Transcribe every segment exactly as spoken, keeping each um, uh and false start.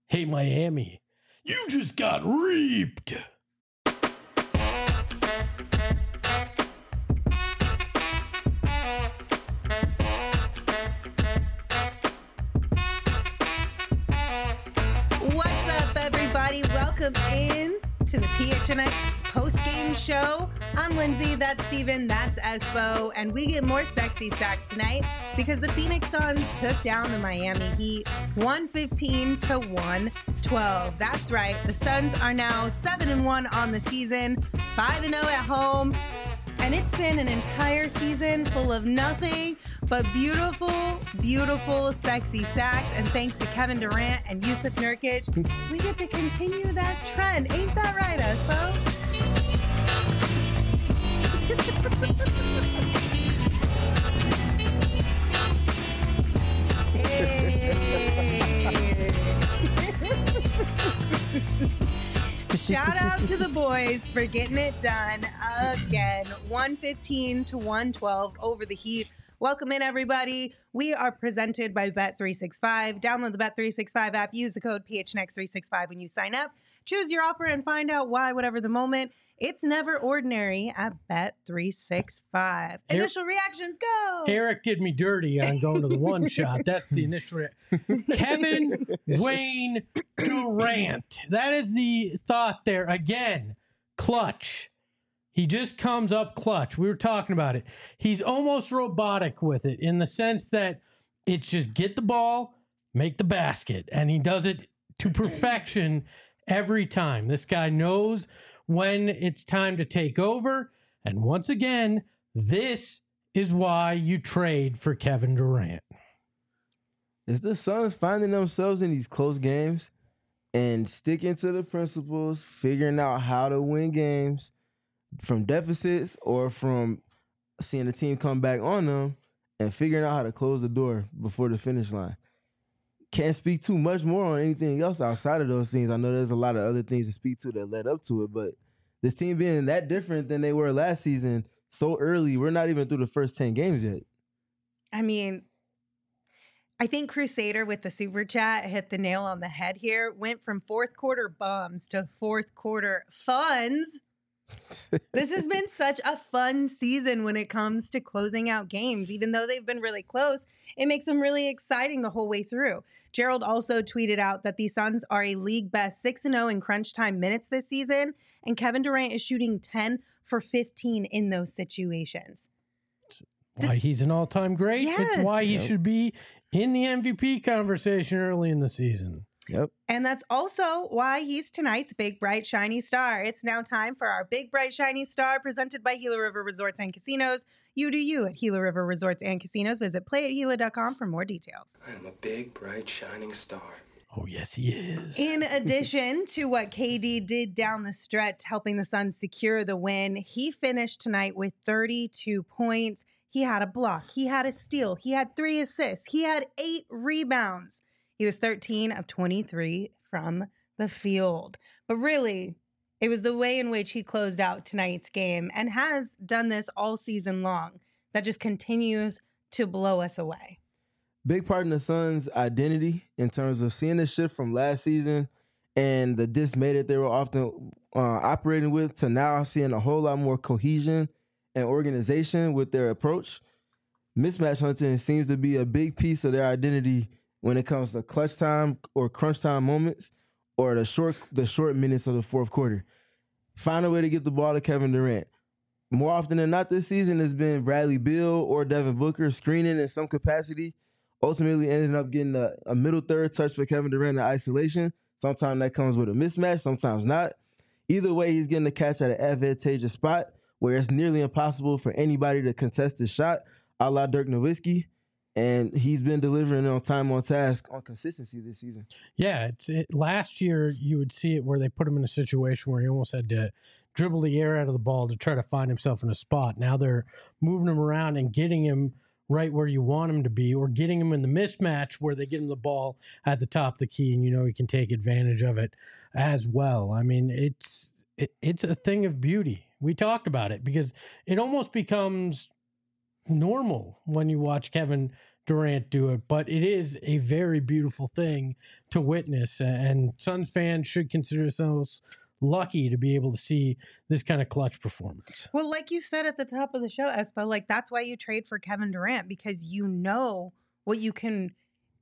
Hey, Miami, you just got reaped. What's up, everybody? Welcome in to the P H N X post-game show. I'm Lindsay, that's Steven, that's Espo, and we get more sexy sacks tonight because the Phoenix Suns took down the Miami Heat one fifteen to one twelve. That's right, the Suns are now seven and one on the season, five and oh at home, and it's been an entire season full of nothing but beautiful, beautiful, sexy sacks. And thanks to Kevin Durant and Jusuf Nurkic, we get to continue that trend. Ain't that right, Espo? Shout out to the boys for getting it done again. one fifteen to one twelve over the Heat. Welcome in, everybody. We are presented by Bet three sixty-five. Download the Bet three sixty-five app. Use the code P H N X three sixty-five when you sign up. Choose your offer and find out why, whatever the moment. It's never ordinary at Bet three sixty-five. Initial reactions, go! Eric did me dirty on going to the one shot. That's the initial re- Kevin Wayne Durant. That is the thought there. Again, clutch. He just comes up clutch. We were talking about it. He's almost robotic with it in the sense that it's just get the ball, make the basket. And he does it to perfection every time. This guy knows when it's time to take over. And once again, this is why you trade for Kevin Durant. Is the Suns finding themselves in these close games and sticking to the principles, figuring out how to win games from deficits or from seeing the team come back on them and figuring out how to close the door before the finish line? Can't speak too much more on anything else outside of those things. I know there's a lot of other things to speak to that led up to it, but this team being that different than they were last season so early, we're not even through the first ten games yet. I mean, I think Crusader with the super chat hit the nail on the head here. Went from fourth quarter bums to fourth quarter funds. This has been such a fun season when it comes to closing out games. Even though they've been really close, it makes them really exciting the whole way through. Gerald also tweeted out that the Suns are a league best six and oh in crunch time minutes this season, and Kevin Durant is shooting ten for fifteen in those situations. Why he's an all-time great. Yes. It's why he Yep. should be in the M V P conversation early in the season. Yep. And that's also why he's tonight's Big Bright Shiny Star. It's now time for our Big Bright Shiny Star presented by Gila River Resorts and Casinos. You do you at Gila River Resorts and Casinos. Visit play at gila dot com for more details. I am a big, bright, shining star. Oh, yes, he is. In addition to what K D did down the stretch, helping the Suns secure the win, he finished tonight with thirty-two points. He had a block. He had a steal. He had three assists. He had eight rebounds. He was thirteen of twenty-three from the field. But really, it was the way in which he closed out tonight's game and has done this all season long that just continues to blow us away. Big part in the Suns' identity in terms of seeing the shift from last season and the dismay that they were often uh, operating with to now seeing a whole lot more cohesion and organization with their approach. Mismatch hunting seems to be a big piece of their identity when it comes to clutch time or crunch time moments or the short the short minutes of the fourth quarter. Find a way to get the ball to Kevin Durant. More often than not this season, it's been Bradley Beal or Devin Booker screening in some capacity, ultimately ending up getting a, a middle third touch for Kevin Durant in isolation. Sometimes that comes with a mismatch, sometimes not. Either way, he's getting the catch at an advantageous spot where it's nearly impossible for anybody to contest his shot, a la Dirk Nowitzki. And he's been delivering on time, on task, on consistency this season. Yeah, it's it, last year you would see it where they put him in a situation where he almost had to dribble the air out of the ball to try to find himself in a spot. Now they're moving him around and getting him right where you want him to be, or getting him in the mismatch where they get him the ball at the top of the key, and you know he can take advantage of it as well. I mean, it's it, it's a thing of beauty. We talked about it because it almost becomes normal when you watch Kevin Durant do it, but it is a very beautiful thing to witness, and Suns fans should consider themselves lucky to be able to see this kind of clutch performance. Well, like you said at the top of the show, Espo, like that's why you trade for Kevin Durant, because you know what you can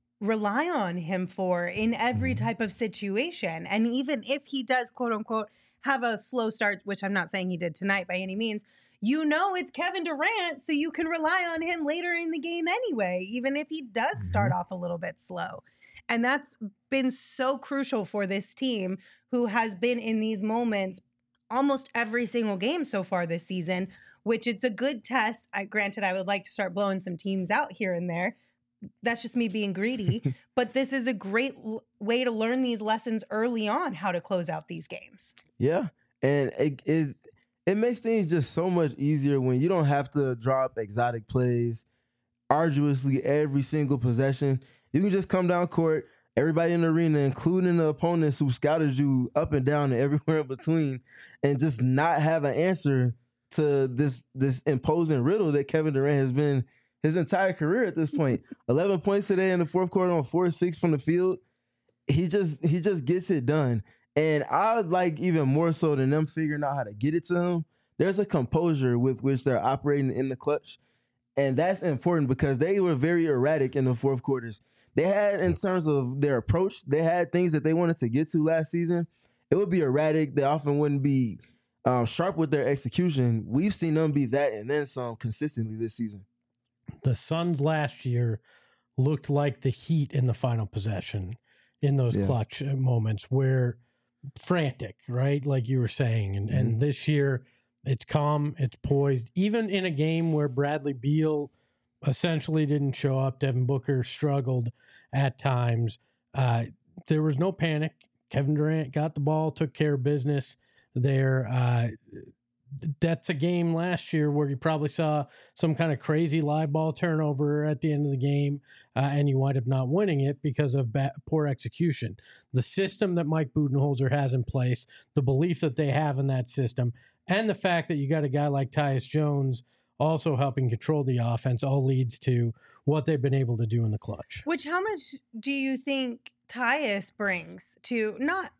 rely on him for in every Mm-hmm. type of situation. And even if he does, quote unquote, have a slow start, which I'm not saying he did tonight by any means, you know it's Kevin Durant, so you can rely on him later in the game anyway, even if he does start Mm-hmm. off a little bit slow. And that's been so crucial for this team, who has been in these moments almost every single game so far this season, which it's a good test. I granted I would like to start blowing some teams out here and there. That's just me being greedy. But this is a great l- way to learn these lessons early on, how to close out these games. Yeah, and it, it it makes things just so much easier when you don't have to drop exotic plays arduously every single possession. You can just come down court, everybody in the arena, including the opponents who scouted you up and down and everywhere in between, and just not have an answer to this this imposing riddle that Kevin Durant has been his entire career at this point. eleven points today in the fourth quarter on four or six from the field. He just he just gets it done. And I like even more so than them figuring out how to get it to him, there's a composure with which they're operating in the clutch. And that's important because they were very erratic in the fourth quarters. They had, in terms of their approach, they had things that they wanted to get to last season. It would be erratic. They often wouldn't be um, sharp with their execution. We've seen them be that and then some consistently this season. The Suns last year looked like the Heat in the final possession in those Yeah. clutch uh, moments where frantic, right? Like you were saying. And, and this year it's calm, it's poised. Even in a game where Bradley Beal essentially didn't show up, Devin Booker struggled at times. Uh, there was no panic. Kevin Durant got the ball, took care of business there. Uh, that's a game last year where you probably saw some kind of crazy live ball turnover at the end of the game, uh, and you wind up not winning it because of bad, poor execution. The system that Mike Budenholzer has in place, the belief that they have in that system, and the fact that you got a guy like Tyus Jones also helping control the offense all leads to what they've been able to do in the clutch. Which, how much do you think Tyus brings to not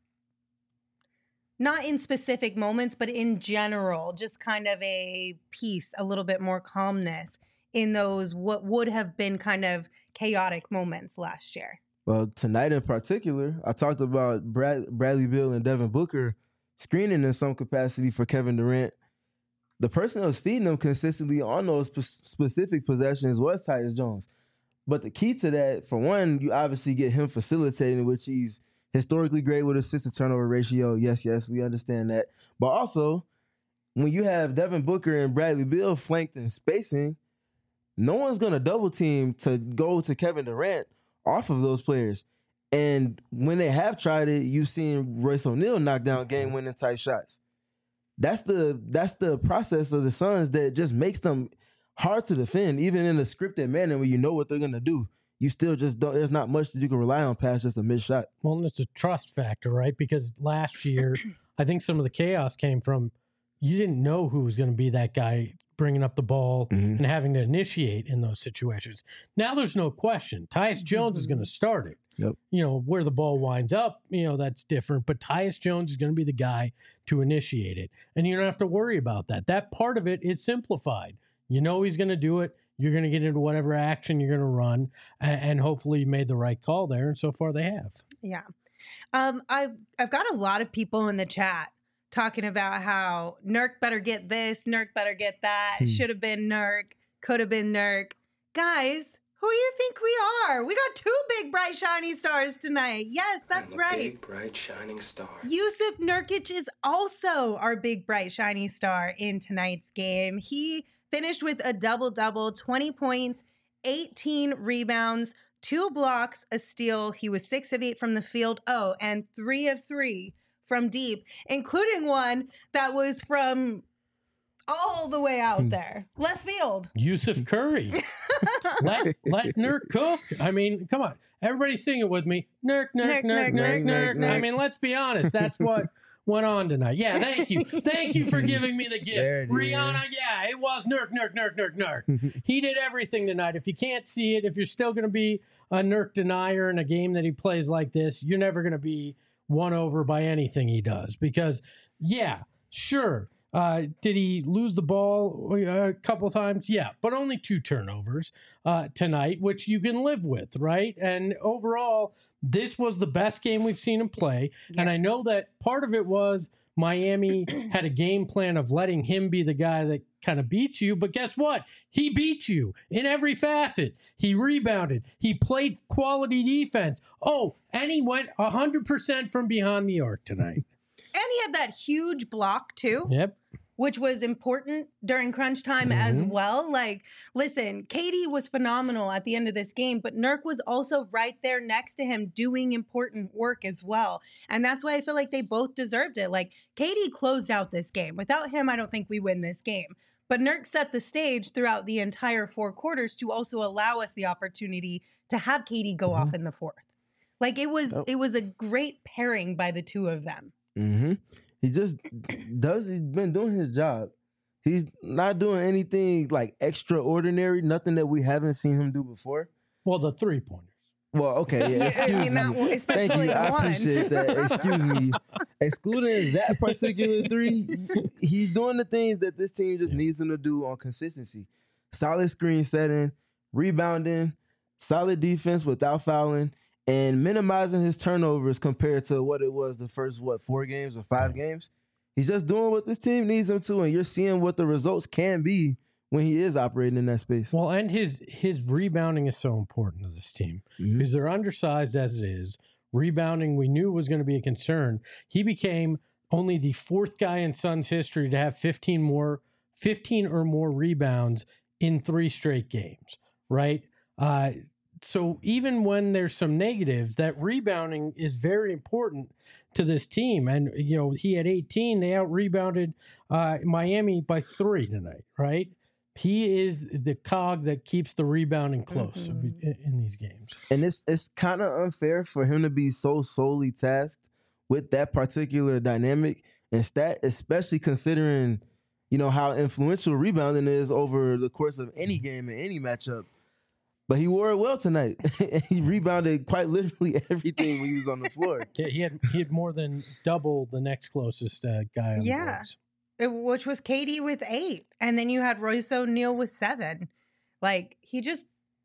not in specific moments, but in general, just kind of a peace, a little bit more calmness in those what would have been kind of chaotic moments last year? Well, tonight in particular, I talked about Brad, Bradley Beal and Devin Booker screening in some capacity for Kevin Durant. The person that was feeding them consistently on those p- specific possessions was Tyus Jones. But the key to that, for one, you obviously get him facilitating, which he's historically great with assist to turnover ratio. Yes, yes, we understand that. But also, when you have Devin Booker and Bradley Beal flanked in spacing, no one's going to double team to go to Kevin Durant off of those players. And when they have tried it, you've seen Royce O'Neal knock down game-winning type shots. That's the that's the process of the Suns that just makes them hard to defend, even in a scripted manner where you know what they're going to do. You still just don't, there's not much that you can rely on past just a missed shot. Well, and it's a trust factor, right? Because last year, I think some of the chaos came from you didn't know who was going to be that guy bringing up the ball Mhm. and having to initiate in those situations. Now there's no question. Tyus Jones is going to start it. Yep. You know, where the ball winds up, you know, that's different. But Tyus Jones is going to be the guy to initiate it. And you don't have to worry about that. That part of it is simplified. You know he's going to do it. You're going to get into whatever action you're going to run. And, and hopefully you made the right call there. And so far they have. Yeah. Um, I've, I've got a lot of people in the chat talking about how Nurk better get this, Nurk better get that, Hmm. should have been Nurk, could have been Nurk. Guys, who do you think we are? We got two big, bright, shiny stars tonight. Yes, that's I'm a right. big, bright, shining star. Yusuf Nurkic is also our big, bright, shiny star in tonight's game. He finished with a double-double, twenty points, eighteen rebounds, two blocks, a steal. He was six of eight from the field. Oh, and three of three from deep, including one that was from all the way out there, left field. Yusuf Curry. let let Nurk cook. I mean, come on. Everybody sing it with me. Nurk, Nurk, Nurk, Nurk, Nurk, Nurk, Nurk, Nurk. Nurk, I Nurk. mean, let's be honest. That's what went on tonight. Yeah, thank you. Thank you for giving me the gift. There it Rihanna, is. yeah, it was Nurk, Nurk, Nurk, Nurk, Nurk. He did everything tonight. If you can't see it, if you're still going to be a Nurk denier in a game that he plays like this, you're never going to be won over by anything he does. Because, yeah, sure. Uh, did he lose the ball a couple times? Yeah, but only two turnovers uh, tonight, which you can live with, right? And overall, this was the best game we've seen him play. Yes. And I know that part of it was Miami had a game plan of letting him be the guy that kind of beats you. But guess what? He beat you in every facet. He rebounded. He played quality defense. Oh, and he went one hundred percent from behind the arc tonight. And he had that huge block too. Yep. Which was important during crunch time Mm-hmm. as well. Like, listen, Katie was phenomenal at the end of this game, but Nurk was also right there next to him doing important work as well. And that's why I feel like they both deserved it. Like, Katie closed out this game. Without him, I don't think we win this game. But Nurk set the stage throughout the entire four quarters to also allow us the opportunity to have Katie go Mm-hmm. off in the fourth. Like, it was, Oh. it was a great pairing by the two of them. Mm-hmm. He just does. He's been doing his job. He's not doing anything like extraordinary. Nothing that we haven't seen him do before. Well, the three pointers. Well, okay, yeah, Yeah, excuse I mean, that me. one- Thank especially you. I one. appreciate that. Excuse me. Excluding that particular three, he's doing the things that this team just needs him to do on consistency. Solid screen setting, rebounding, solid defense without fouling, and minimizing his turnovers compared to what it was the first, what, four games or five games. He's just doing what this team needs him to, and you're seeing what the results can be when he is operating in that space. Well, and his his rebounding is so important to this team Mhm. because they're undersized as it is. Rebounding, we knew was going to be a concern. He became only the fourth guy in Suns history to have fifteen more, fifteen or more rebounds in three straight games. Right. Uh, so even when there's some negatives, that rebounding is very important to this team. And, you know, he had eighteen. They out rebounded uh, Miami by three tonight, right? He is the cog that keeps the rebounding close Mhm. in, in these games. And it's it's kind of unfair for him to be so solely tasked with that particular dynamic and stat, especially considering, you know, how influential rebounding is over the course of any game and any matchup. But he wore it well tonight. He rebounded quite literally everything when he was on the floor. Yeah, he had he had more than double the next closest uh, guy on Yeah. the boards. It- which was Katie with eight. And then you had Royce O'Neal with seven. Like, he just,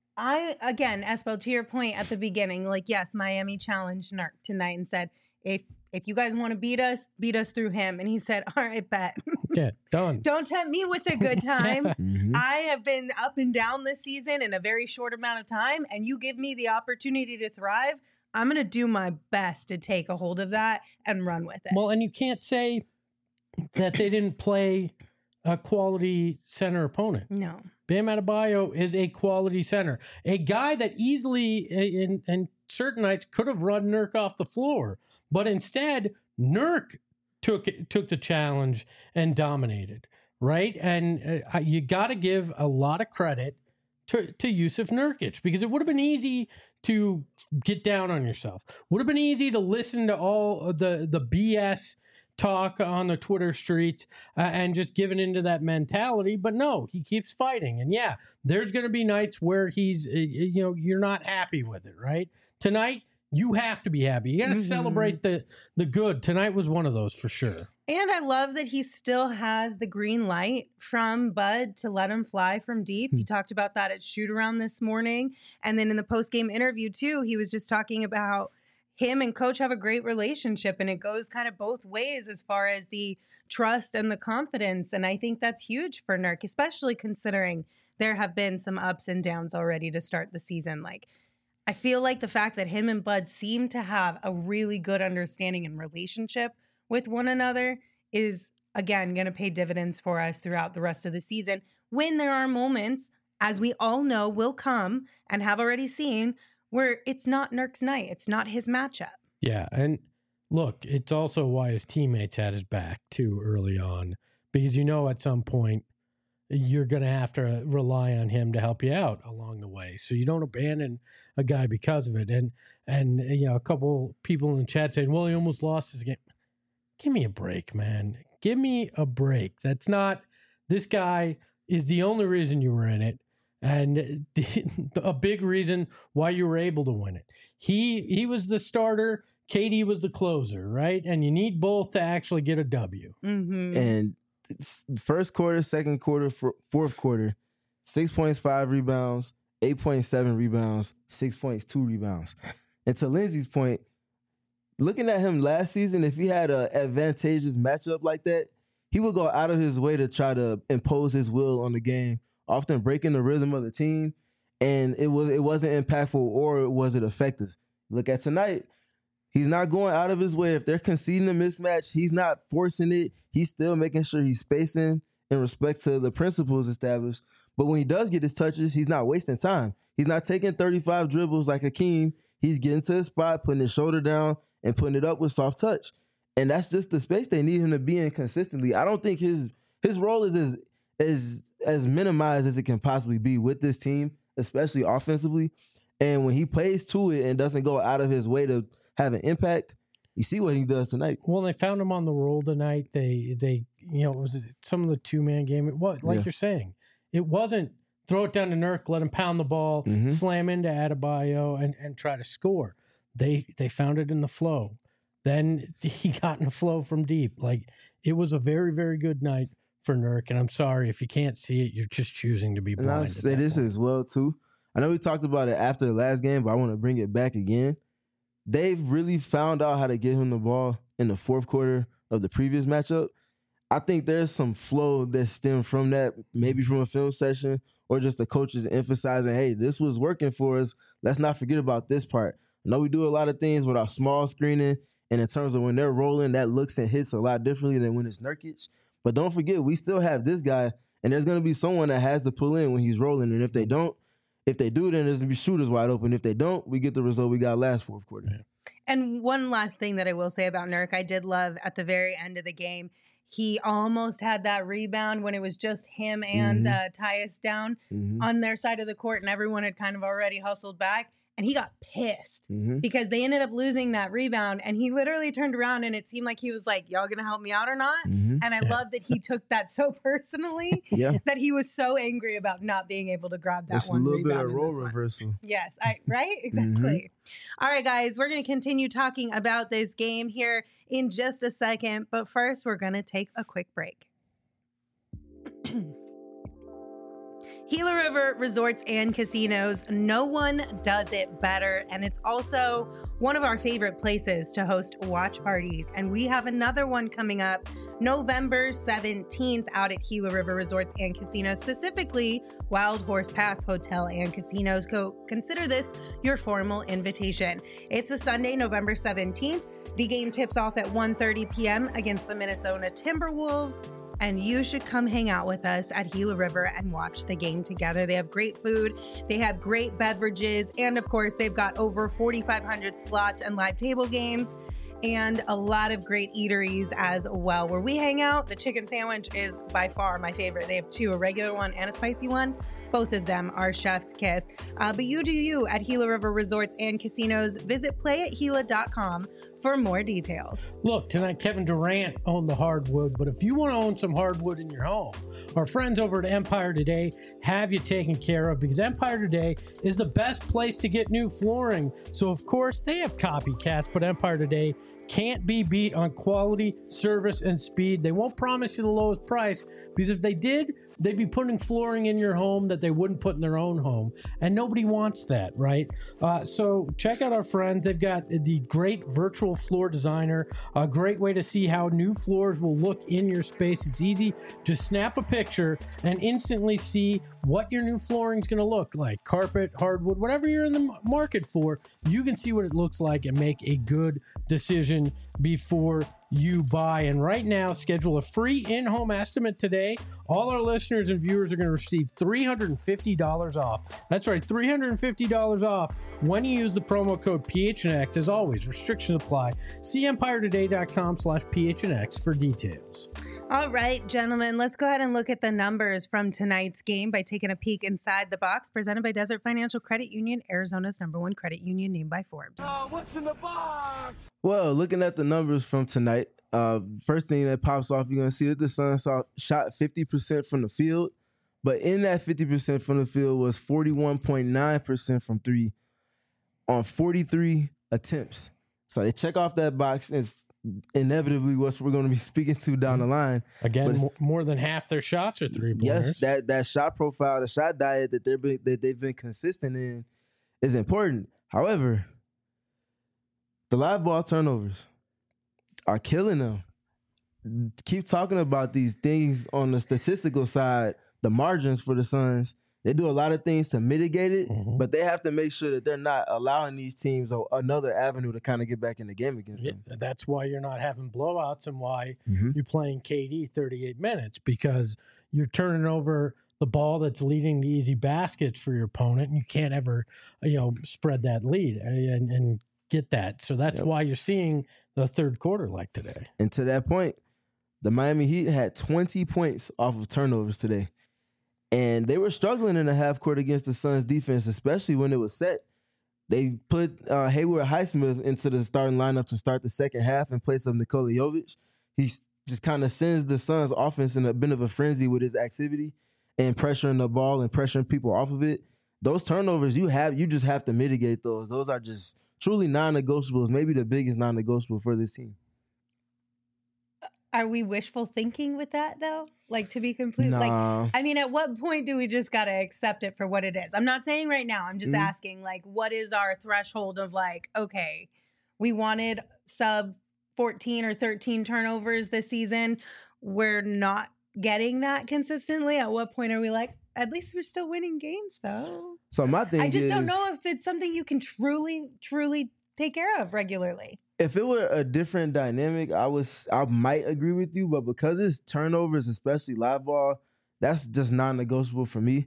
I, again, Espo, to your point at the beginning, like, yes, Miami challenged Nurk tonight and said, if if you guys want to beat us, beat us through him. And he said, all right, bet. Yeah, done. Don't tempt me with a good time. Mhm. I have been up and down this season in a very short amount of time, and you give me the opportunity to thrive. I'm going to do my best to take a hold of that and run with it. Well, and you can't say that they didn't play a quality center opponent. no. Bam Adebayo is a quality center, a guy that easily in, in certain nights could have run Nurk off the floor, but instead Nurk took took the challenge and dominated, right? And uh, you got to give a lot of credit to to Yusuf Nurkic because it would have been easy to get down on yourself. Would have been easy to listen to all of the the B S talk on the Twitter streets uh, and just giving into that mentality. But no, he keeps fighting. And yeah, there's going to be nights where he's, uh, you know, you're not happy with it, right? Tonight, you have to be happy. You got to Mhm. celebrate the the good. Tonight was one of those for sure. And I love that he still has the green light from Bud to let him fly from deep. He talked about that at shoot around this morning. And then in the post game interview, too, he was just talking about him and coach have a great relationship, and it goes kind of both ways as far as the trust and the confidence. And I think that's huge for Nurk, especially considering there have been some ups and downs already to start the season. Like, I feel like the fact that him and Bud seem to have a really good understanding and relationship with one another is, again, going to pay dividends for us throughout the rest of the season when there are moments, as we all know will come and have already seen, where it's not Nurk's night. It's not his matchup. Yeah, and look, it's also why his teammates had his back too early on, because you know at some point you're going to have to rely on him to help you out along the way, so you don't abandon a guy because of it. And and you know, a couple people in the chat saying, "Well, he almost lost his game." give me a break, man. Give me a break. That's not, this guy is the only reason you were in it. And a big reason why you were able to win it. He he was the starter. K D was the closer, right? And you need both to actually get a W. Mm-hmm. And first quarter, second quarter, fourth quarter, six points, five rebounds, eight point seven rebounds, six points, two rebounds. And to Lindsay's point, looking at him last season, if he had an advantageous matchup like that, he would go out of his way to try to impose his will on the game, often breaking the rhythm of the team, and it was it wasn't impactful or was it effective. Look at tonight. He's not going out of his way. If they're conceding a mismatch, he's not forcing it. He's still making sure he's spacing in respect to the principles established. But when he does get his touches, he's not wasting time. He's not taking thirty-five dribbles like Hakeem. He's getting to his spot, putting his shoulder down, and putting it up with soft touch. And that's just the space they need him to be in consistently. I don't think his his role is as as as minimized as it can possibly be with this team, especially offensively. And when he plays to it and doesn't go out of his way to have an impact, you see what he does tonight. Well, they found him on the roll tonight. They they you know, it was some of the two man game. It was like yeah. you're saying, it wasn't throw it down to Nurk, let him pound the ball, mm-hmm. slam into Adebayo, and and try to score. They they found it in the flow. Then he got in the flow from deep. Like, it was a very, very good night for Nurk. And I'm sorry, if you can't see it, you're just choosing to be blind. And I'll say this point. as well, too. I know we talked about it after the last game, but I want to bring it back again. They've really found out how to get him the ball in the fourth quarter of the previous matchup. I think there's some flow that stemmed from that, maybe from a film session or just the coaches emphasizing, hey, this was working for us. Let's not forget about this part. I know we do a lot of things with our small screening, and in terms of when they're rolling, that looks and hits a lot differently than when it's Nurkic. But don't forget, we still have this guy, and there's going to be someone that has to pull in when he's rolling. And if they don't, if they do, then there's going to be shooters wide open. If they don't, we get the result we got last fourth quarter. Yeah. And one last thing that I will say about Nurk, I did love at the very end of the game, he almost had that rebound when it was just him and mm-hmm. uh, Tyus down mm-hmm. on their side of the court, and everyone had kind of already hustled back. And he got pissed mm-hmm. because they ended up losing that rebound. And he literally turned around and it seemed like he was like, y'all going to help me out or not? Mm-hmm. And I yeah. love that he took that so personally yeah. that he was so angry about not being able to grab that it's one rebound. It's a little rebound bit of role reversal. One. Yes, I, right? Exactly. Mm-hmm. All right, guys, we're going to continue talking about this game here in just a second. But first, we're going to take a quick break. Gila River Resorts and Casinos, no one does it better. And it's also one of our favorite places to host watch parties. And we have another one coming up November seventeenth out at Gila River Resorts and Casinos, specifically Wild Horse Pass Hotel and Casinos. Go consider this your formal invitation. It's a Sunday, November seventeenth. The game tips off at one thirty p.m. against the Minnesota Timberwolves. And you should come hang out with us at Gila River and watch the game together. They have great food, they have great beverages, and of course, they've got over forty-five hundred slots and live table games, and a lot of great eateries as well. Where we hang out, the chicken sandwich is by far my favorite. They have two, a regular one and a spicy one. Both of them are chef's kiss. Uh, but you do you at Gila River Resorts and Casinos. Visit play at gila dot com for more details. Look, tonight Kevin Durant owned the hardwood, but if you want to own some hardwood in your home, our friends over at Empire Today have you taken care of, because Empire Today is the best place to get new flooring. So of course they have copycats, but Empire Today can't be beat on quality, service, and speed. They won't promise you the lowest price, because if they did, they'd be putting flooring in your home that they wouldn't put in their own home. And nobody wants that, right? Uh, so check out our friends. They've got the great virtual floor designer, a great way to see how new floors will look in your space. It's easy. Just snap a picture and instantly see what your new flooring is going to look like. Carpet, hardwood, whatever you're in the market for, you can see what it looks like and make a good decision before you buy. And right now, schedule a free in-home estimate today. All our listeners and viewers are going to receive three hundred fifty dollars off. That's right, three hundred fifty dollars off when you use the promo code P H N X. As always, restrictions apply. See empire today dot com slash P H N X for details. All right, gentlemen, let's go ahead and look at the numbers from tonight's game by taking a peek inside the box. Presented by Desert Financial Credit Union, Arizona's number one credit union, named by Forbes. Uh, what's in the box? Well, looking at the numbers from tonight, Uh, first thing that pops off, you're gonna see that the Suns saw, shot fifty percent from the field, but in that fifty percent from the field was forty-one point nine percent from three on forty-three attempts. So they check off that box. It's inevitably what we're going to be speaking to down the line. Again, more, more than half their shots are three pointers. Yes, that that shot profile, the shot diet that they're been, that they've been consistent in is important. However, the live ball turnovers are killing them. Keep talking about these things on the statistical side, the margins for the Suns. They do a lot of things to mitigate it, mm-hmm. but they have to make sure that they're not allowing these teams another avenue to kind of get back in the game against yeah, them. That's why you're not having blowouts and why mm-hmm. you're playing K D thirty-eight minutes, because you're turning over the ball that's leading to easy baskets for your opponent, and you can't ever, you know, spread that lead and, and get that. So that's yep. why you're seeing the third quarter like today. And to that point, the Miami Heat had twenty points off of turnovers today. And they were struggling in the half court against the Suns defense, especially when it was set. They put uh, Hayward Highsmith into the starting lineup to start the second half in place of Nikola Jovic. He just kind of sends the Suns offense in a bit of a frenzy with his activity and pressuring the ball and pressuring people off of it. Those turnovers, you have you just have to mitigate those. Those are just truly non-negotiables, maybe the biggest non-negotiable for this team. Are we wishful thinking with that, though? Like, to be complete, nah. like, I mean, at what point do we just got to accept it for what it is? I'm not saying right now. I'm just mm-hmm. asking, like, what is our threshold of, like, okay, we wanted sub fourteen or thirteen turnovers this season. We're not getting that consistently. At what point are we like, at least we're still winning games, though? So my thing I just is, don't know if it's something you can truly, truly take care of regularly. If it were a different dynamic, I was I might agree with you, but because it's turnovers, especially live ball, that's just non-negotiable for me.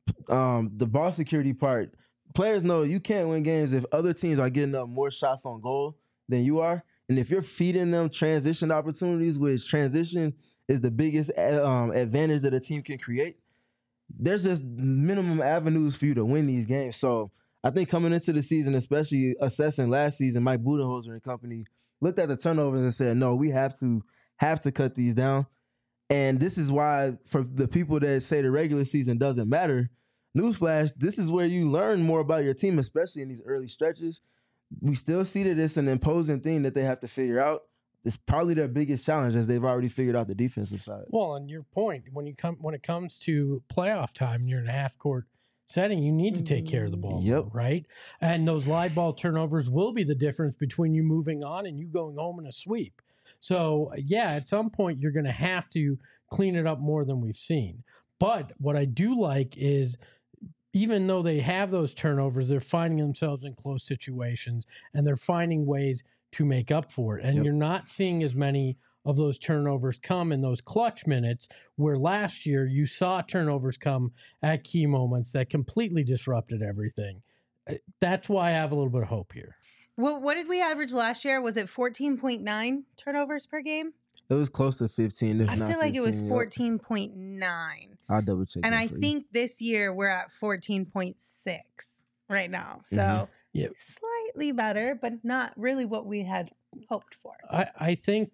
Um, the ball security part, players know you can't win games if other teams are getting up more shots on goal than you are, and if you're feeding them transition opportunities, which transition is the biggest um, advantage that a team can create, there's just minimum avenues for you to win these games. So I think coming into the season, especially assessing last season, Mike Budenholzer and company looked at the turnovers and said, no, we have to have to cut these down. And this is why, for the people that say the regular season doesn't matter, newsflash, this is where you learn more about your team, especially in these early stretches. We still see that it's an imposing thing that they have to figure out. It's probably their biggest challenge, as they've already figured out the defensive side. Well, and your point, when you come when it comes to playoff time, you're in a half court setting, you need to take care of the ball, yep. right? And those live ball turnovers will be the difference between you moving on and you going home in a sweep. So, yeah, at some point, you're going to have to clean it up more than we've seen. But what I do like is, even though they have those turnovers, they're finding themselves in close situations, and they're finding ways to make up for it. And yep. you're not seeing as many of those turnovers come in those clutch minutes, where last year you saw turnovers come at key moments that completely disrupted everything. That's why I have a little bit of hope here. Well, what did we average last year? Was it fourteen point nine turnovers per game? It was close to fifteen. If I not feel like fifteen, it was fourteen point nine. Yep. I'll double check. And I for think you. this year we're at fourteen point six right now. So Mm-hmm. Yep. slightly better, but not really what we had hoped for. I, I think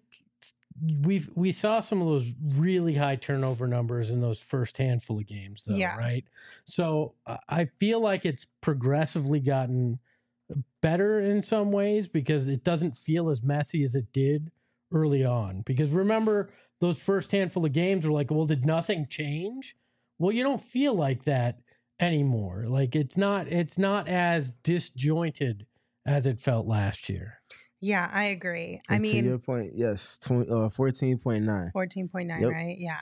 we've we saw some of those really high turnover numbers in those first handful of games, though, Yeah. right? So uh, I feel like it's progressively gotten better in some ways, because it doesn't feel as messy as it did early on. Because remember, those first handful of games were like, well, did nothing change? Well, you don't feel like that anymore. Like it's not it's not as disjointed as it felt last year. Yeah, I agree. I And mean, to your point, yes, twenty, uh, fourteen point nine. fourteen point nine, Yep. right? Yeah.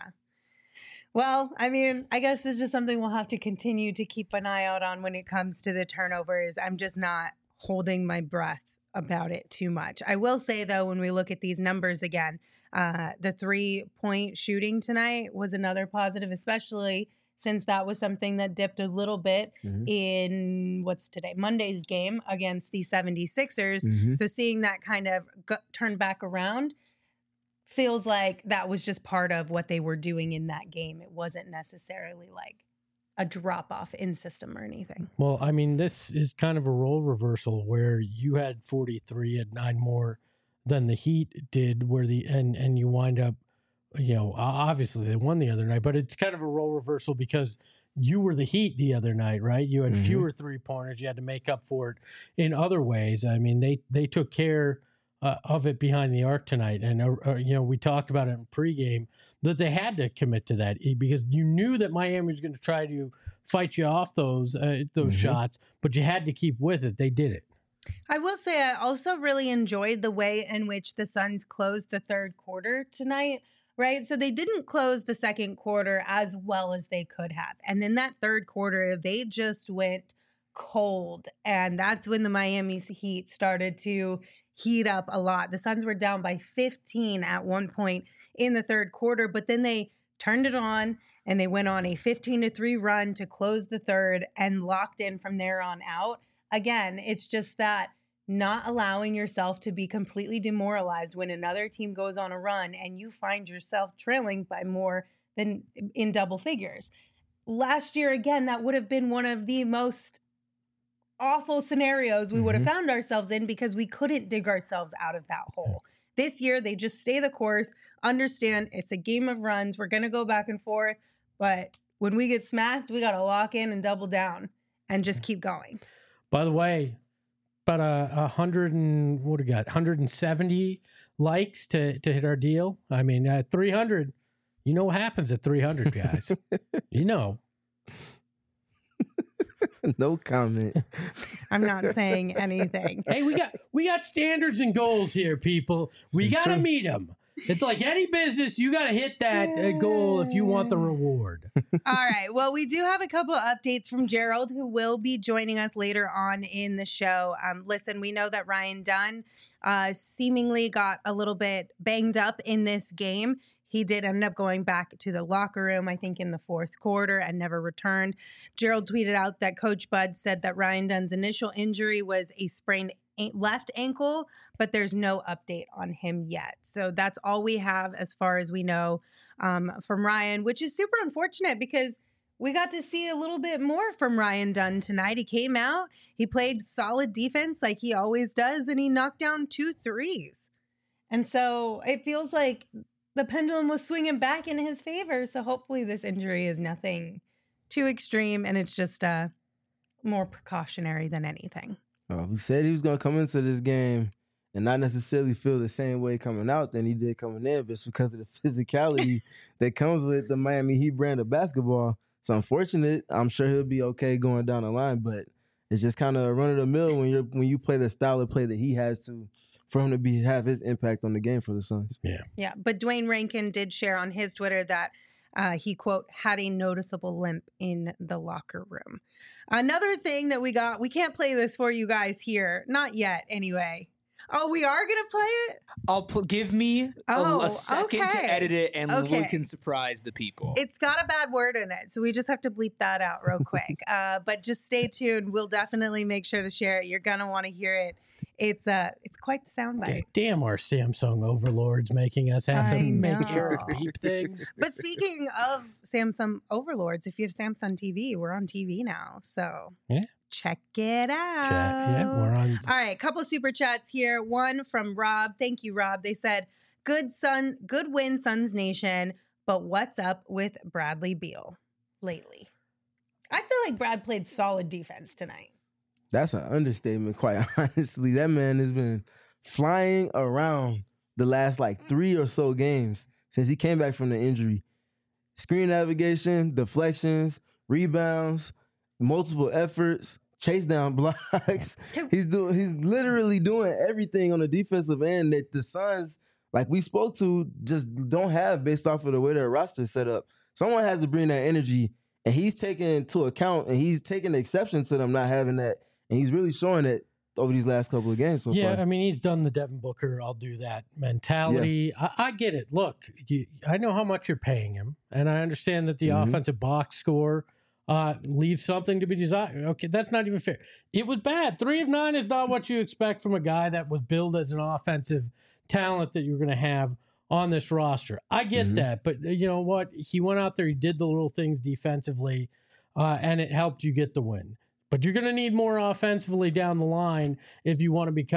Well, I mean, I guess it's just something we'll have to continue to keep an eye out on when it comes to the turnovers. I'm just not holding my breath about it too much. I will say, though, when we look at these numbers again, uh, the three-point shooting tonight was another positive, especially since that was something that dipped a little bit Mm-hmm. in, what's today, Monday's game against the seventy-sixers. Mm-hmm. So seeing that kind of go- turn back around feels like that was just part of what they were doing in that game. It wasn't necessarily like a drop off in system or anything. Well, I mean, this is kind of a role reversal where you had forty-three, had nine more than the Heat did, where the and and you wind up, you know, obviously they won the other night, but it's kind of a role reversal because you were the Heat the other night, right? You had mm-hmm. fewer three pointers. You had to make up for it in other ways. I mean, they they took care uh, of it behind the arc tonight, and uh, uh, you know, we talked about it in pregame that they had to commit to that because you knew that Miami was going to try to fight you off those uh, those mm-hmm. shots, but you had to keep with it. They did it. I will say I also really enjoyed the way in which the Suns closed the third quarter tonight, right? So they didn't close the second quarter as well as they could have. And then that third quarter, they just went cold. And that's when the Miami Heat started to heat up a lot. The Suns were down by fifteen at one point in the third quarter, but then they turned it on and they went on a fifteen to three run to close the third and locked in from there on out. Again, it's just that not allowing yourself to be completely demoralized when another team goes on a run and you find yourself trailing by more than in double figures. Last year, again, that would have been one of the most awful scenarios we mm-hmm. would have found ourselves in because we couldn't dig ourselves out of that hole. This year, they just stay the course, understand it's a game of runs. We're going to go back and forth, but when we get smacked, we got to lock in and double down and just keep going. By the way, about a, a hundred and what do we got? one hundred seventy likes to to hit our deal. I mean, at three hundred, you know what happens at three hundred, guys. You know. No comment. I'm not saying anything. Hey, we got we got standards and goals here, people. We got to meet them. It's like any business. You got to hit that uh, goal if you want the reward. All right. Well, we do have a couple of updates from Gerald, who will be joining us later on in the show. Um, listen, we know that Ryan Dunn uh, seemingly got a little bit banged up in this game. He did end up going back to the locker room, I think, in the fourth quarter and never returned. Gerald tweeted out that Coach Bud said that Ryan Dunn's initial injury was a sprained left ankle, but there's no update on him yet. So that's all we have as far as we know um, from Ryan, which is super unfortunate because we got to see a little bit more from Ryan Dunn tonight. He came out, he played solid defense like he always does, and he knocked down two threes. And so it feels like the pendulum was swinging back in his favor. So hopefully this injury is nothing too extreme and it's just uh, more precautionary than anything. Oh, he said he was going to come into this game and not necessarily feel the same way coming out than he did coming in, but it's because of the physicality that comes with the Miami Heat brand of basketball. It's unfortunate. I'm sure he'll be okay going down the line, but it's just kind of run of the mill when you're when you play the style of play that he has to, for him to be have his impact on the game for the Suns. Yeah, yeah. But Dwayne Rankin did share on his Twitter that Uh, he, quote, had a noticeable limp in the locker room. Another thing that we got, we can't play this for you guys here. Not yet, anyway. Oh, we are going to play it? I'll pl- give me oh, a, a second okay. to edit it and okay. we can surprise the people. It's got a bad word in it, so we just have to bleep that out real quick. uh, but just stay tuned. We'll definitely make sure to share it. You're going to want to hear it. It's uh, it's quite the soundbite. Damn, our Samsung overlords making us have I to know. make Eric beep things. But speaking of Samsung overlords, if you have Samsung T V, we're on T V now. So yeah. check it out. Check, yeah, we're on. All right, couple super chats here. One from Rob. Thank you, Rob. They said, "Good Sun, good win, Suns Nation. But what's up with Bradley Beal lately? I feel like Brad played solid defense tonight." That's an understatement, quite honestly. That man has been flying around the last like three or so games since he came back from the injury. Screen navigation, deflections, rebounds, multiple efforts, chase down blocks. He's doing. He's literally doing everything on the defensive end that the Suns, like we spoke to, just don't have based off of the way their roster is set up. Someone has to bring that energy, and he's taking into account, and he's taking exception to them not having that. And he's really showing it over these last couple of games so yeah, far. I mean, he's done the Devin Booker, I'll do that mentality. Yeah. I, I get it. Look, you, I know how much you're paying him, and I understand that the mm-hmm. offensive box score uh, leaves something to be desired. Okay, that's not even fair. It was bad. Three of nine is not what you expect from a guy that was billed as an offensive talent that you're going to have on this roster. I get mm-hmm. that, but you know what? He went out there, he did the little things defensively, uh, and it helped you get the win. But you're going to need more offensively down the line if you want to become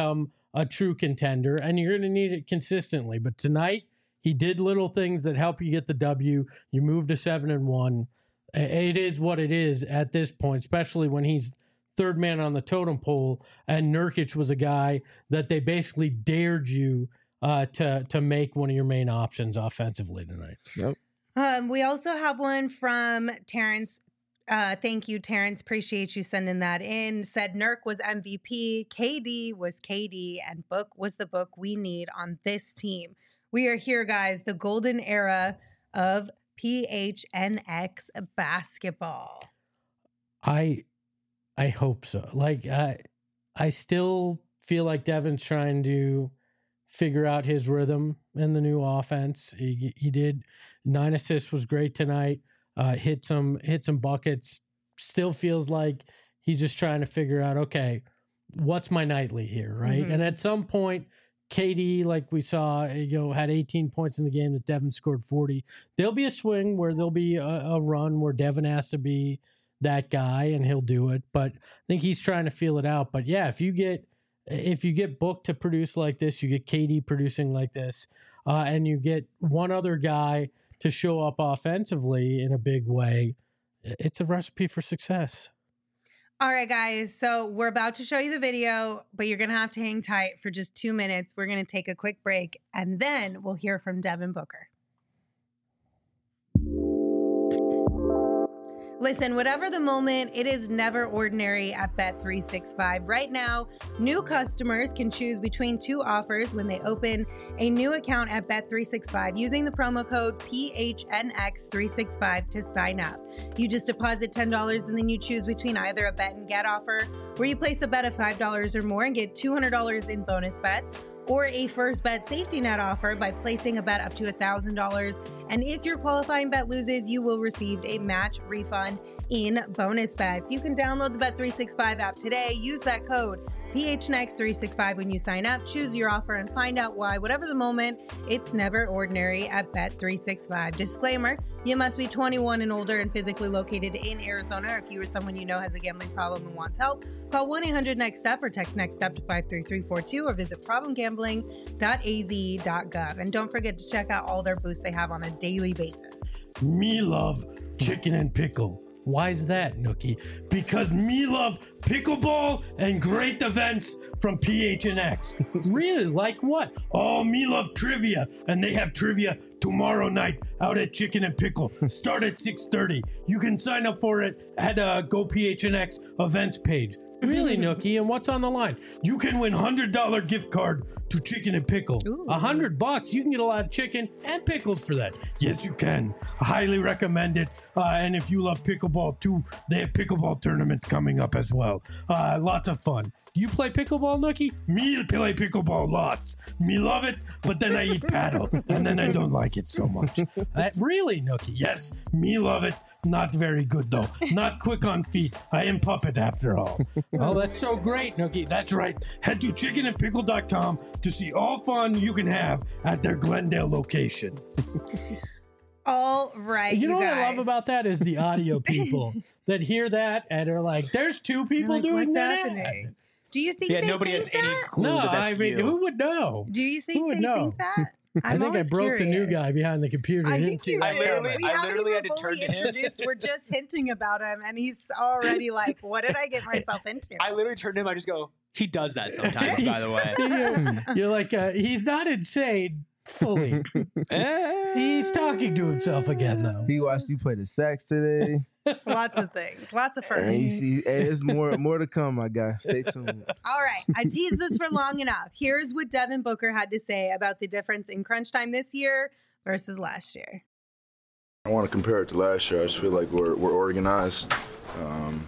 a true contender, and you're going to need it consistently. But tonight, he did little things that help you get the W. You move to seven and one. It is what it is at this point, especially when he's third man on the totem pole, and Nurkic was a guy that they basically dared you uh, to to make one of your main options offensively tonight. Yep. Um, we also have one from Terrence. Uh, thank you, Terrence. Appreciate you sending that in. Said Nurk was M V P, K D was K D, and Book was the Book we need on this team. We are here, guys. The golden era of P H N X basketball. I I hope so. Like I I still feel like Devin's trying to figure out his rhythm in the new offense. He he did nine assists, was great tonight. Uh, hit some hit some buckets. Still feels like he's just trying to figure out, okay, what's my nightly here, right? Mm-hmm. And at some point, K D, like we saw, you know, had eighteen points in the game that Devin scored forty. There'll be a swing where there'll be a, a run where Devin has to be that guy, and he'll do it. But I think he's trying to feel it out. But yeah, if you get if you get Book to produce like this, you get K D producing like this, uh, and you get one other guy to show up offensively in a big way, it's a recipe for success. All right, guys. So we're about to show you the video, but you're going to have to hang tight for just two minutes. We're going to take a quick break, and then we'll hear from Devin Booker. Listen, whatever the moment, it is never ordinary at Bet three sixty-five. Right now, new customers can choose between two offers when they open a new account at Bet three sixty-five using the promo code P H N X three sixty-five to sign up. You just deposit ten dollars and then you choose between either a bet and get offer, where you place a bet of five dollars or more and get two hundred dollars in bonus bets, or a first bet safety net offer by placing a bet up to one thousand dollars. And if your qualifying bet loses, you will receive a match refund in bonus bets. You can download the Bet three sixty-five app today. Use that code P H N X three sixty-five when you sign up. Choose your offer and find out why, whatever the moment, it's never ordinary at Bet three sixty-five. Disclaimer, you must be twenty-one and older and physically located in Arizona. Or if you or someone you know has a gambling problem and wants help, call one eight hundred next step or text next step to five three three four two or visit problem gambling dot a z dot gov. And don't forget to check out all their booths they have on a daily basis. Me love chicken and pickle. Why is that, Nookie? Because me love pickleball and great events from P H N X. Really? Like what? Oh, me love trivia. And they have trivia tomorrow night out at Chicken and Pickle. Start at six thirty. You can sign up for it at uh, Go P H N X events page. Really, Nookie? And what's on the line? You can win one hundred dollars gift card to Chicken and Pickle. Ooh. one hundred bucks. You can get a lot of chicken and pickles for that. Yes, you can. I highly recommend it. Uh, and if you love pickleball too, they have pickleball tournament coming up as well. Uh, lots of fun. You play pickleball, Nookie? Me play pickleball lots. Me love it, but then I eat paddle, and then I don't like it so much. Uh, really, Nookie? Yes, me love it. Not very good, though. Not quick on feet. I am puppet, after all. Oh, that's so great, Nookie. That's right. Head to chicken and pickle dot com to see all fun you can have at their Glendale location. All right, You know you what I love guys. about that is the audio people that hear that and are like, there's two people Like, doing what's that. happening? Do you think Yeah, they nobody think has that? any clue No, that that's I mean, you. who would know? Do you think Who would they know? think that? I I'm think I always broke the new curious. guy behind the computer. I He think didn't see you that I literally- did. We I haven't literally even had to fully turn to him. introduced. We're just hinting about him, and he's already like, "What did I get myself into?" I literally turned to him. I just go, he does that sometimes, by the way. You're, you're like, uh, he's not insane fully. Eh. He's talking to himself again, though. He watched you play the sax today. Lots of things, lots of And you firsts. see, hey, there's more more to come, my guy. Stay tuned. All right, I teased this for long enough. Here's what Devin Booker had to say about the difference in crunch time this year versus last year. I want to compare it to last year. I just feel like we're we're organized. Um,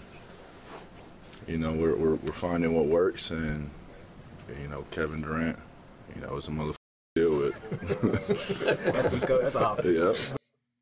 you know, we're, we're we're finding what works, and you know, Kevin Durant, you know, is a motherfucker to deal with. That's obvious. Yeah.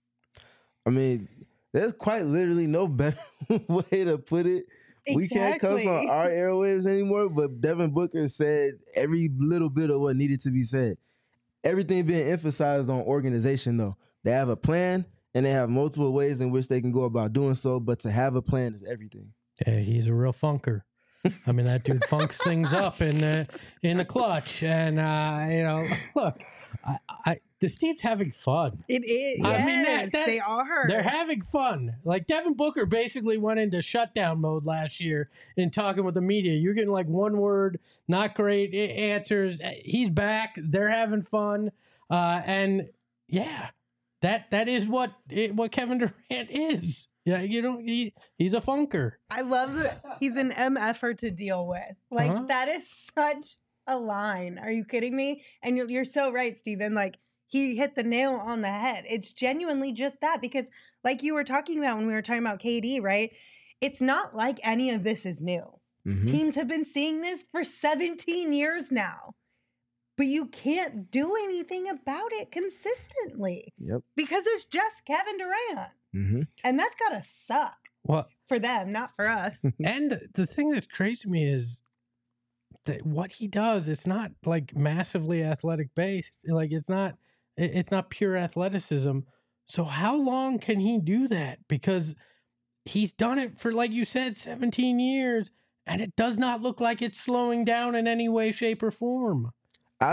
I mean, there's quite literally no better way to put it. We can't cuss Exactly. on our airwaves anymore, but Devin Booker said every little bit of what needed to be said. Everything being emphasized on organization, though. They have a plan, and they have multiple ways in which they can go about doing so, but to have a plan is everything. Yeah, he's a real funker. I mean, that dude funks things up in the in the clutch, and uh, you know, look, I, I this team's having fun. It is. I Yes, mean, that- that- they are. They're having fun. Like Devin Booker basically went into shutdown mode last year in talking with the media. You're getting like one word, not great a- answers. He's back. They're having fun, uh, and yeah, that that is what it, what Kevin Durant is. Yeah, you know, he, he's a funker. I love that he's an M F-er to deal with. Like, Uh-huh. that is such a line. Are you kidding me? And you're, you're so right, Steven. Like, he hit the nail on the head. It's genuinely just that because, like you were talking about when we were talking about K D, right? It's not like any of this is new. Mhm. Teams have been seeing this for seventeen years now. But you can't do anything about it consistently Yep. because it's just Kevin Durant. Mm-hmm. And that's got to suck Well, for them, not for us. and the thing that's crazy to me is that what he does, it's not like massively athletic based. Like it's not, it- it's not pure athleticism. So how long can he do that? Because he's done it for, like you said, seventeen years, and it does not look like it's slowing down in any way, shape, or form. I,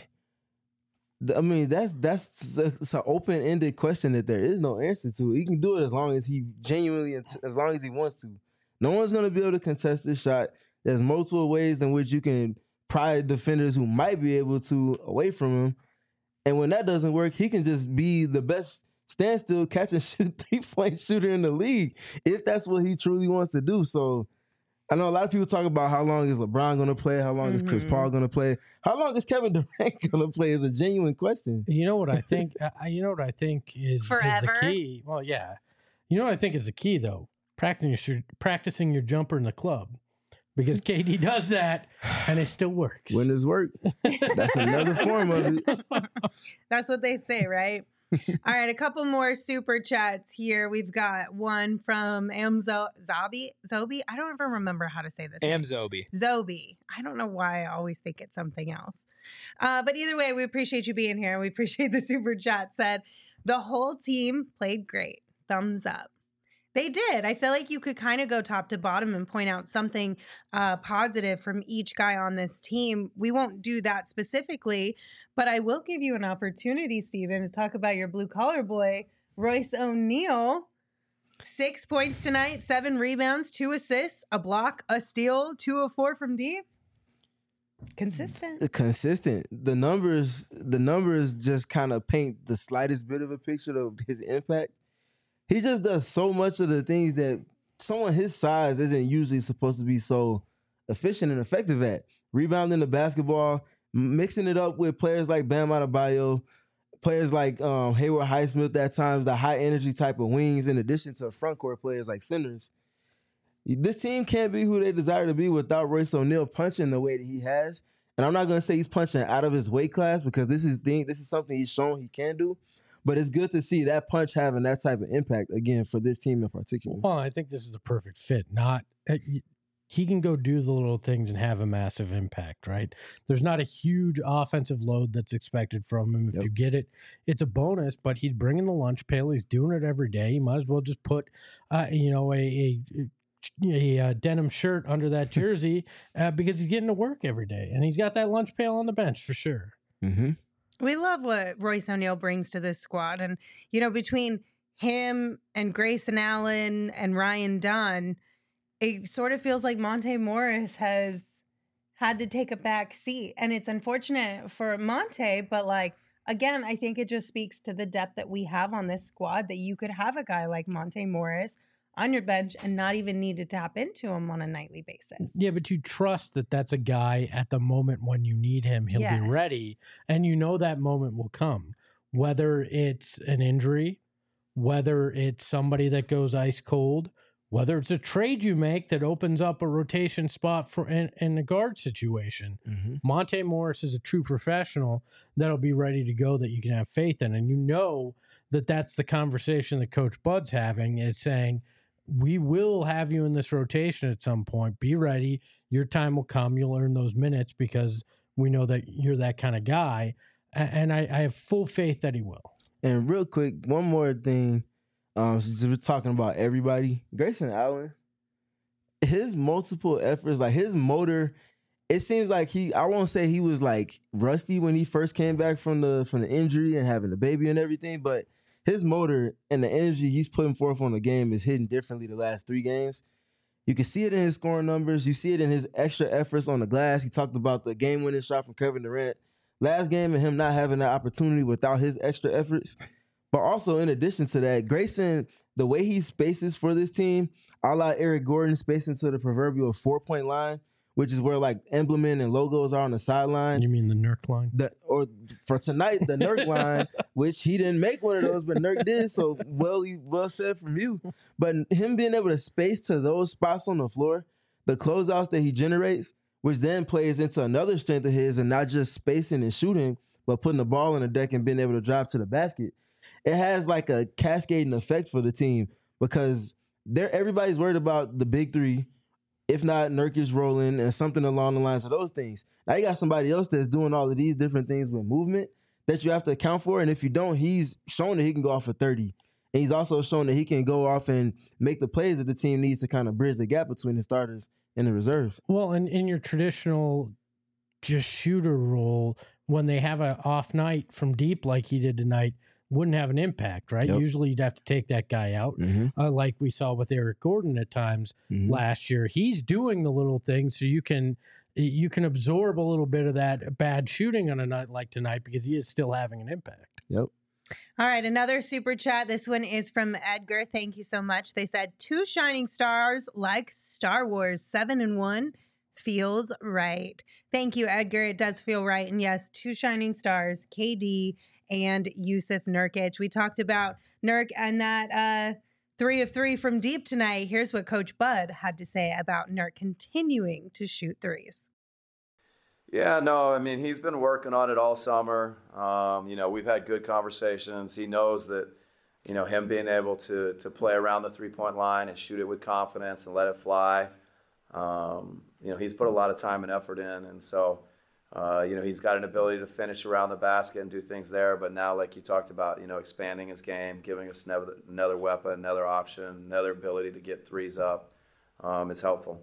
I mean, that's that's it's an open ended question that there is no answer to. He can do it as long as he genuinely, as long as he wants to. No one's going to be able to contest this shot. There's multiple ways in which you can pry defenders who might be able to away from him. And when that doesn't work, he can just be the best standstill catch and shoot three point shooter in the league if that's what he truly wants to do. So I know a lot of people talk about how long is LeBron going to play, how long is Chris Mhm. Paul going to play, how long is Kevin Durant going to play is a genuine question. You know what I think? I, you know what I think is, is Forever? the key. Well, yeah. You know what I think is the key though? Practicing your practicing your jumper in the club, because K D does that and it still works. When it's work, that's another form of it. That's what they say, right? All right, a couple more super chats here. We've got one from Amzo Zobi. Zobi? I don't ever remember how to say this. name. Amzobi. Zobi. I don't know why I always think it's something else. Uh, but either way, we appreciate you being here. We appreciate the super chat. Said the whole team played great. Thumbs up. They did. I feel like you could kind of go top to bottom and point out something uh, positive from each guy on this team. We won't do that specifically, but I will give you an opportunity, Steven, to talk about your blue collar boy, Royce O'Neal. Six points tonight, seven rebounds, two assists, a block, a steal, two of four from deep. Consistent. Consistent. The numbers, the numbers just kind of paint the slightest bit of a picture of his impact. He just does so much of the things that someone his size isn't usually supposed to be so efficient and effective at. Rebounding the basketball, mixing it up with players like Bam Adebayo, players like um, Hayward Highsmith at times, the high energy type of wings, in addition to front court players like centers. This team can't be who they desire to be without Royce O'Neal punching the way that he has. And I'm not going to say he's punching out of his weight class because this is thing, this is something he's shown he can do. But it's good to see that punch having that type of impact, again, for this team in particular. Well, I think this is the perfect fit. Not uh, y- he can go do the little things and have a massive impact, right? There's not a huge offensive load that's expected from him. If Yep. you get it, it's a bonus. But he's bringing the lunch pail. He's doing it every day. You might as well just put, uh, you know, a, a, a, a denim shirt under that jersey uh, because he's getting to work every day, and he's got that lunch pail on the bench for sure. Mm-hmm. We love what Royce O'Neal brings to this squad. And, you know, between him and Grayson Allen and Ryan Dunn, it sort of feels like Monte Morris has had to take a back seat. And it's unfortunate for Monte, but like, again, I think it just speaks to the depth that we have on this squad that you could have a guy like Monte Morris on your bench and not even need to tap into him on a nightly basis. Yeah, but you trust that that's a guy at the moment when you need him, he'll Yes. be ready. And you know that moment will come, whether it's an injury, whether it's somebody that goes ice cold, whether it's a trade you make that opens up a rotation spot for in, in a guard situation. Mm-hmm. Monte Morris is a true professional that'll be ready to go, that you can have faith in. And you know that that's the conversation that Coach Bud's having, is saying, we will have you in this rotation at some point. Be ready. Your time will come. You'll earn those minutes because we know that you're that kind of guy. A- And I, I have full faith that he will. And real quick, one more thing. Um, since we're talking about everybody, Grayson Allen, his multiple efforts, like his motor, it seems like he, I won't say he was like rusty when he first came back from the from the injury and having the baby and everything, but his motor and the energy he's putting forth on the game is hitting differently the last three games. You can see it in his scoring numbers. You see it in his extra efforts on the glass. He talked about the game-winning shot from Kevin Durant last game and him not having that opportunity without his extra efforts. But also, in addition to that, Grayson, the way he spaces for this team, a la Eric Gordon spacing to the proverbial four-point line, which is where like emblemen and logos are on the sideline. You mean the Nurk line? The, or for tonight, the Nurk line, which he didn't make one of those, but Nurk did. So well, well said from you. But him being able to space to those spots on the floor, the closeouts that he generates, which then plays into another strength of his, and not just spacing and shooting, but putting the ball on the deck and being able to drive to the basket. It has like a cascading effect for the team because they're everybody's worried about the big three. If not, Nurkic rolling and something along the lines of those things. Now you got somebody else that's doing all of these different things with movement that you have to account for. And if you don't, he's shown that he can go off for thirty. And he's also shown that he can go off and make the plays that the team needs to kind of bridge the gap between the starters and the reserves. Well, and in your traditional just shooter role, when they have an off night from deep like he did tonight, wouldn't have an impact, right? Yep. Usually you'd have to take that guy out, Mm-hmm. uh, like we saw with Eric Gordon at times Mm-hmm. last year. He's doing the little things so you can you can absorb a little bit of that bad shooting on a night like tonight because he is still having an impact. Yep. All right, another super chat. This one is from Edgar. Thank you so much. They said, two shining stars like Star Wars, seven and one feels right. Thank you, Edgar. It does feel right. And yes, two shining stars, K D and Yusuf Nurkic. We talked about Nurk and that uh, three of three from deep tonight. Here's what Coach Bud had to say about Nurk continuing to shoot threes. Yeah, no, I mean, he's been working on it all summer. Um, you know, we've had good conversations. He knows that, you know, him being able to to play around the three-point line and shoot it with confidence and let it fly, um, you know, he's put a lot of time and effort in. And so, uh, you know, he's got an ability to finish around the basket and do things there. But now, like you talked about, you know, expanding his game, giving us another, another weapon, another option, another ability to get threes up, um, it's helpful.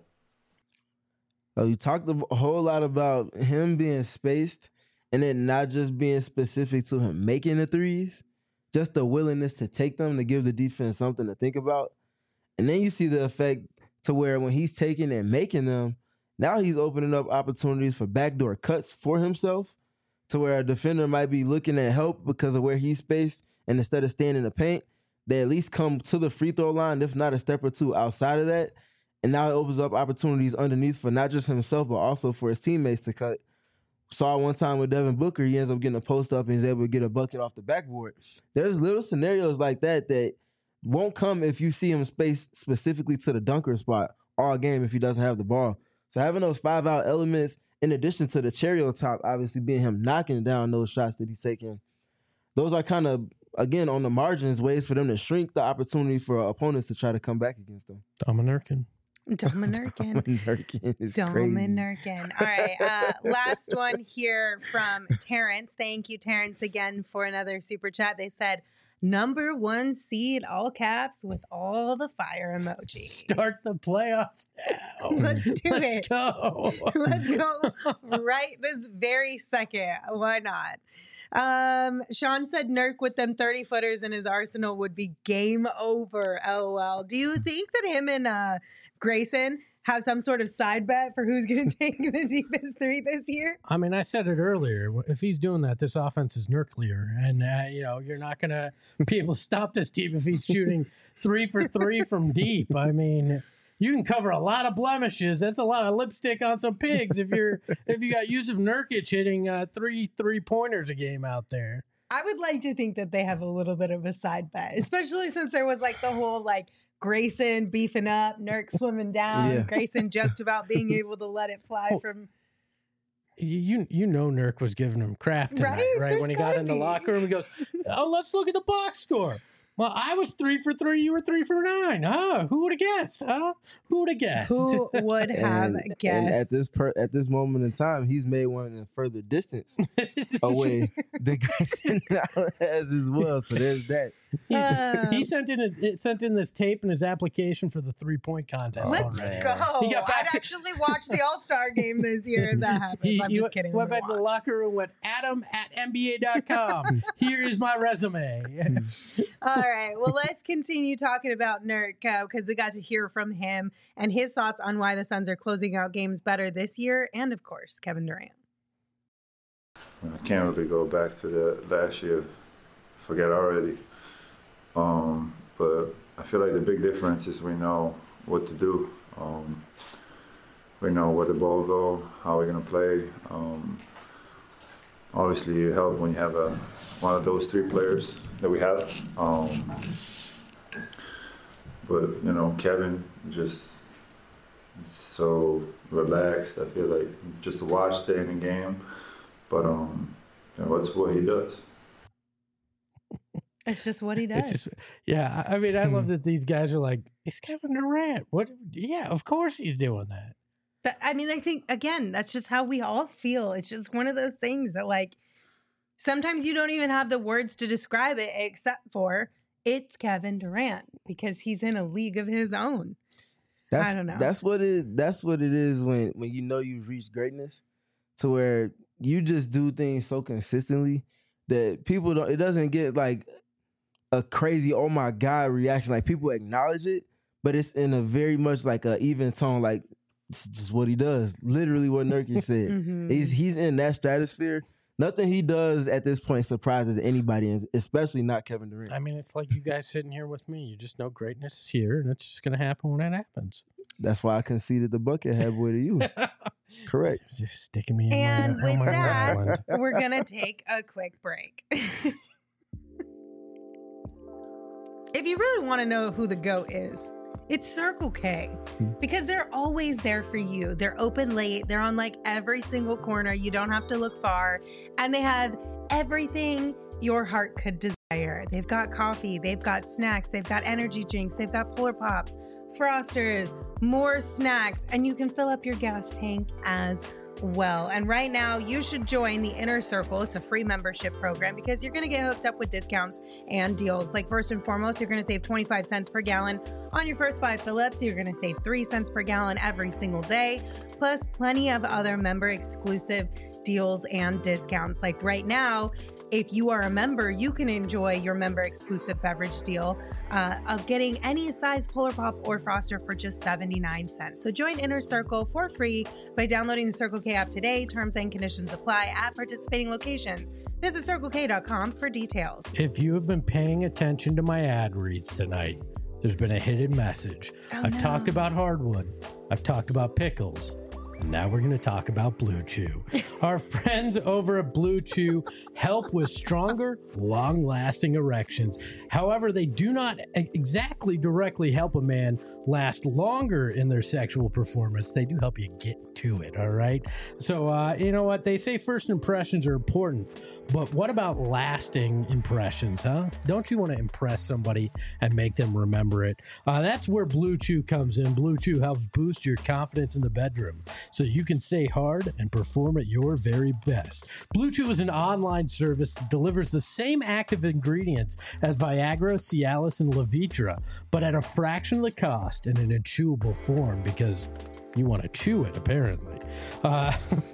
So you talked a whole lot about him being spaced and then not just being specific to him making the threes, just the willingness to take them to give the defense something to think about. And then you see the effect to where when he's taking and making them, now he's opening up opportunities for backdoor cuts for himself to where a defender might be looking at help because of where he's spaced. And instead of staying in the paint, they at least come to the free throw line, if not a step or two outside of that. And now it opens up opportunities underneath for not just himself, but also for his teammates to cut. Saw one time with Devin Booker, he ends up getting a post up and he's able to get a bucket off the backboard. There's little scenarios like that that won't come if you see him spaced specifically to the dunker spot all game if he doesn't have the ball. So having those five out elements, in addition to the cherry on top, obviously being him knocking down those shots that he's taking, those are kind of, again, on the margins, ways for them to shrink the opportunity for opponents to try to come back against them. Dominurkin. Dominurkin. Dominurkin is crazy. Dominurkin. All right. Uh, last one here from Terrence. Thank you, Terrence, again for another super chat. They said, number one seed, all caps, with all the fire emojis. Start the playoffs now. Let's do Let's it. go. Let's go right this very second. Why not? Um, Sean said Nurk with them thirty footers in his arsenal would be game over. LOL. Do you think that him and uh, Grayson have some sort of side bet for who's going to take the deepest three this year? I mean, I said it earlier. If he's doing that, this offense is nuclear. And, uh, you know, you're not going to be able to stop this team if he's shooting three for three from deep. I mean, you can cover a lot of blemishes. That's a lot of lipstick on some pigs if you're if you got Yusuf Nurkic hitting uh, three three-pointers a game out there. I would like to think that they have a little bit of a side bet, especially since there was like the whole like Grayson beefing up, Nurk slimming down. Yeah. Grayson joked about being able to let it fly Oh, from. You you know Nurk was giving him crap tonight, Right? right? There's When he got gotta in the be. locker room, he goes, "Oh, let's look at the box score. Well, I was three for three. You were three for nine. Huh? Who would have guessed? Huh? Who would have guessed?" Who would have and, guessed? and at this per, at this moment in time, he's made one in further distance away that Grayson now has as well. So there's that. He, Uh, he sent in his it sent in this tape and his application for the three point contest. Let's already. go. He got back I'd to- actually watch the All Star game this year if that happens. He, I'm he just went, kidding. went I'm back to the gonna watch. locker room. Went Adam at N B A dot com. Here is my resume. All right. Well, let's continue talking about Nurk because we got to hear from him and his thoughts on why the Suns are closing out games better this year, and of course, Kevin Durant. I can't really go back to the last year. Forget already. Um, but I feel like the big difference is we know what to do. Um, we know where the ball go, how we're gonna play. Um, obviously, it helps when you have a one of those three players that we have. Um, but you know, Kevin just so relaxed. I feel like just to watch stay in the game. But um, you know, that's what he does. It's just what he does. It's just, yeah. I I mean, I love that these guys are like, it's Kevin Durant. What? Yeah, of course he's doing that. That- I mean, I think, again, that's just how we all feel. It's just one of those things that, like, sometimes you don't even have the words to describe it except for it's Kevin Durant because he's in a league of his own. That's, I don't know. That's what it. That's what it is when when you know you've reached greatness, to where you just do things so consistently that people don't. It doesn't get like a crazy oh my god reaction. Like people acknowledge it, but it's in a very much like a even tone. Like it's just what he does. Literally what Nurkic said. Mhm. He's he's in that stratosphere. Nothing he does at this point surprises anybody, and especially not Kevin Durant. I mean, it's like you guys sitting here with me. You just know greatness is here, and it's just going to happen when it happens. That's why I conceded the bucket head boy to you. Correct. Just sticking me in And my, with on my that, island. we're going to take a quick break. If you really want to know who the GOAT is, it's Circle K, because they're always there for you. They're open late. They're on like every single corner. You don't have to look far. And they have everything your heart could desire. They've got coffee. They've got snacks. They've got energy drinks. They've got Polar Pops, Frosters, more snacks, and you can fill up your gas tank as well. And right now, you should join the Inner Circle. It's a free membership program because you're going to get hooked up with discounts and deals. Like, first and foremost, you're going to save twenty-five cents per gallon on your first five fill-ups. You're going to save three cents per gallon every single day, plus plenty of other member exclusive deals and discounts. Like right now, if you are a member, you can enjoy your member exclusive beverage deal uh, of getting any size Polar Pop or Froster for just seventy-nine cents. So join Inner Circle for free by downloading the Circle K app today. Terms and conditions apply at participating locations. Visit circle k dot com for details. If you have been paying attention to my ad reads tonight, there's been a hidden message. Oh, I've no. talked about hardwood. I've talked about pickles. And now we're going to talk about Blue Chew. Our friends over at Blue Chew help with stronger, long-lasting erections. However, they do not exactly directly help a man last longer in their sexual performance. They do help you get to it, all right? So, uh, you know what? They say first impressions are important, but what about lasting impressions, huh? Don't you want to impress somebody and make them remember it? Uh, that's where Blue Chew comes in. Blue Chew helps boost your confidence in the bedroom so you can stay hard and perform at your very best. Blue Chew is an online service that delivers the same active ingredients as Viagra, Cialis, and Levitra, but at a fraction of the cost and in a chewable form because you want to chew it, apparently. Uh,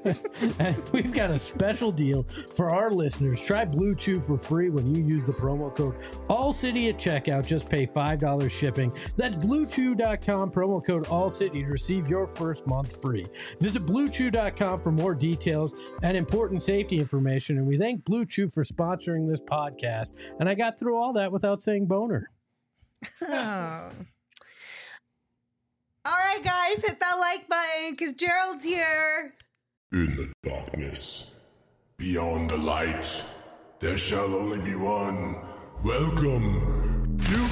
and we've got a special deal for our listeners. Try Blue Chew for free when you use the promo code ALLCITY at checkout. Just pay five dollars shipping. That's blue chew dot com, promo code ALLCITY to receive your first month free. Visit blue chew dot com for more details and important safety information. And we thank Blue Chew for sponsoring this podcast. And I got through all that without saying boner. Oh. All right, guys, hit that like button because Gerald's here. In the darkness, beyond the light, there shall only be one. Welcome, you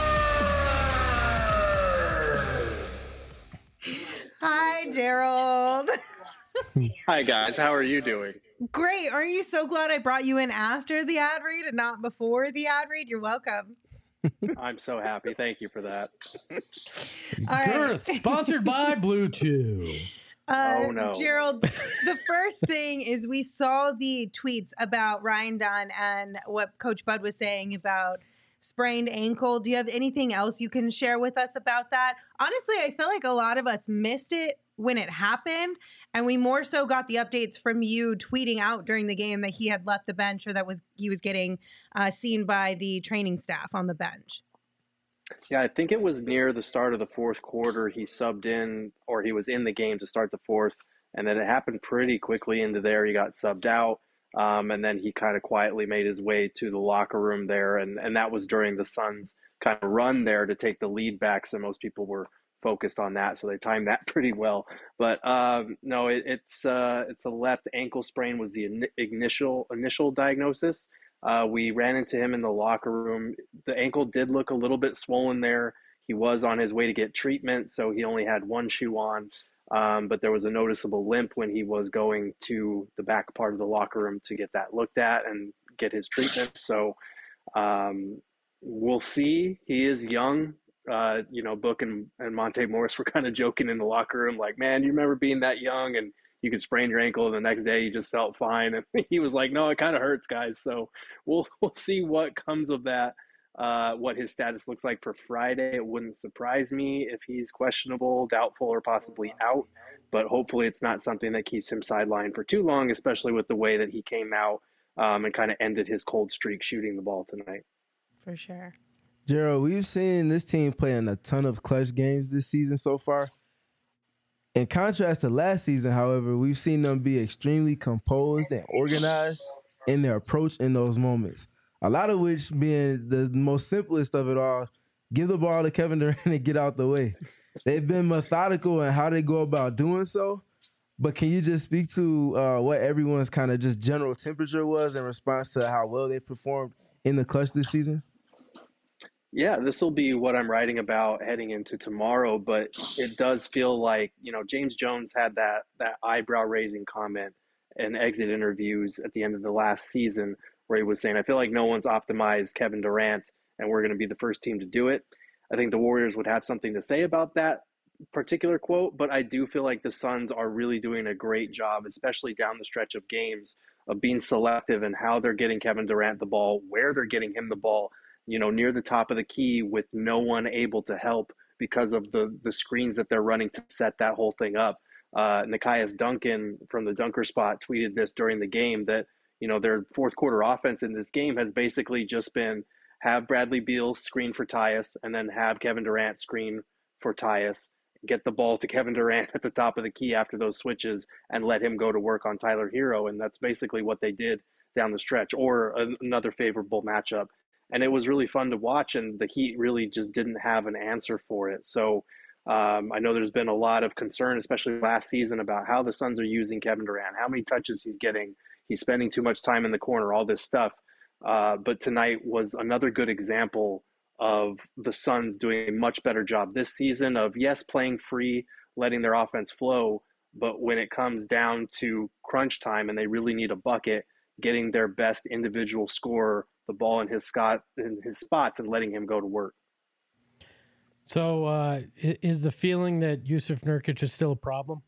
Hi, Gerald. Hi, guys. How are you doing? Great. Aren't you so glad I brought you in after the ad read and not before the ad read? You're welcome. I'm so happy. Thank you for that. All right. Girth, sponsored by Blue Chew. Uh, Oh, no. Gerald, the first thing is we saw the tweets about Ryan Dunn and what Coach Bud was saying about sprained ankle. Do you have anything else you can share with us about that? Honestly, I feel like a lot of us missed it when it happened, and we more so got the updates from you tweeting out during the game that he had left the bench, or that was he was getting uh, seen by the training staff on the bench. Yeah, I think it was near the start of the fourth quarter. He subbed in, or he was in the game to start the fourth, and then it happened pretty quickly into there. He got subbed out, um, and then he kind of quietly made his way to the locker room there, and, and that was during the Suns' kind of run there to take the lead back, so most people were focused on that, so they timed that pretty well. But um, no, it, it's uh, it's a left ankle sprain was the in- initial initial diagnosis. Uh, we ran into him in the locker room. The ankle did look a little bit swollen there. He was on his way to get treatment, so he only had one shoe on. Um, but there was a noticeable limp when he was going to the back part of the locker room to get that looked at and get his treatment. So um, we'll see. He is young. Uh, you know, Book and, and Monte Morris were kind of joking in the locker room, like, man, you remember being that young and you could sprain your ankle and the next day you just felt fine. And he was like, no, it kind of hurts, guys. So we'll we'll see what comes of that, uh, what his status looks like for Friday. It wouldn't surprise me if he's questionable, doubtful, or possibly out. But hopefully it's not something that keeps him sidelined for too long, especially with the way that he came out um, and kind of ended his cold streak shooting the ball tonight. For sure. Gerald, we've seen this team playing a ton of clutch games this season so far. In contrast to last season, however, we've seen them be extremely composed and organized in their approach in those moments. A lot of which being the most simplest of it all, give the ball to Kevin Durant and get out the way. They've been methodical in how they go about doing so. But can you just speak to uh, what everyone's kind of just general temperature was in response to how well they performed in the clutch this season? Yeah, this will be what I'm writing about heading into tomorrow, but it does feel like, you know, James Jones had that that eyebrow-raising comment in exit interviews at the end of the last season where he was saying, I feel like no one's optimized Kevin Durant, and we're going to be the first team to do it. I think the Warriors would have something to say about that particular quote, but I do feel like the Suns are really doing a great job, especially down the stretch of games, of being selective in how they're getting Kevin Durant the ball, where they're getting him the ball, you know, near the top of the key with no one able to help because of the the screens that they're running to set that whole thing up. Uh, Nekias Duncan from the Dunker Spot tweeted this during the game that, you know, their fourth quarter offense in this game has basically just been have Bradley Beal screen for Tyus and then have Kevin Durant screen for Tyus, get the ball to Kevin Durant at the top of the key after those switches and let him go to work on Tyler Hero. And that's basically what they did down the stretch, or another favorable matchup. And it was really fun to watch, and the Heat really just didn't have an answer for it. So um, I know there's been a lot of concern, especially last season, about how the Suns are using Kevin Durant, how many touches he's getting, he's spending too much time in the corner, all this stuff. Uh, but tonight was another good example of the Suns doing a much better job this season of, yes, playing free, letting their offense flow, but when it comes down to crunch time and they really need a bucket, getting their best individual scorer the ball in his Scott in his spots and letting him go to work. So uh, is the feeling that Jusuf Nurkic is still a problem?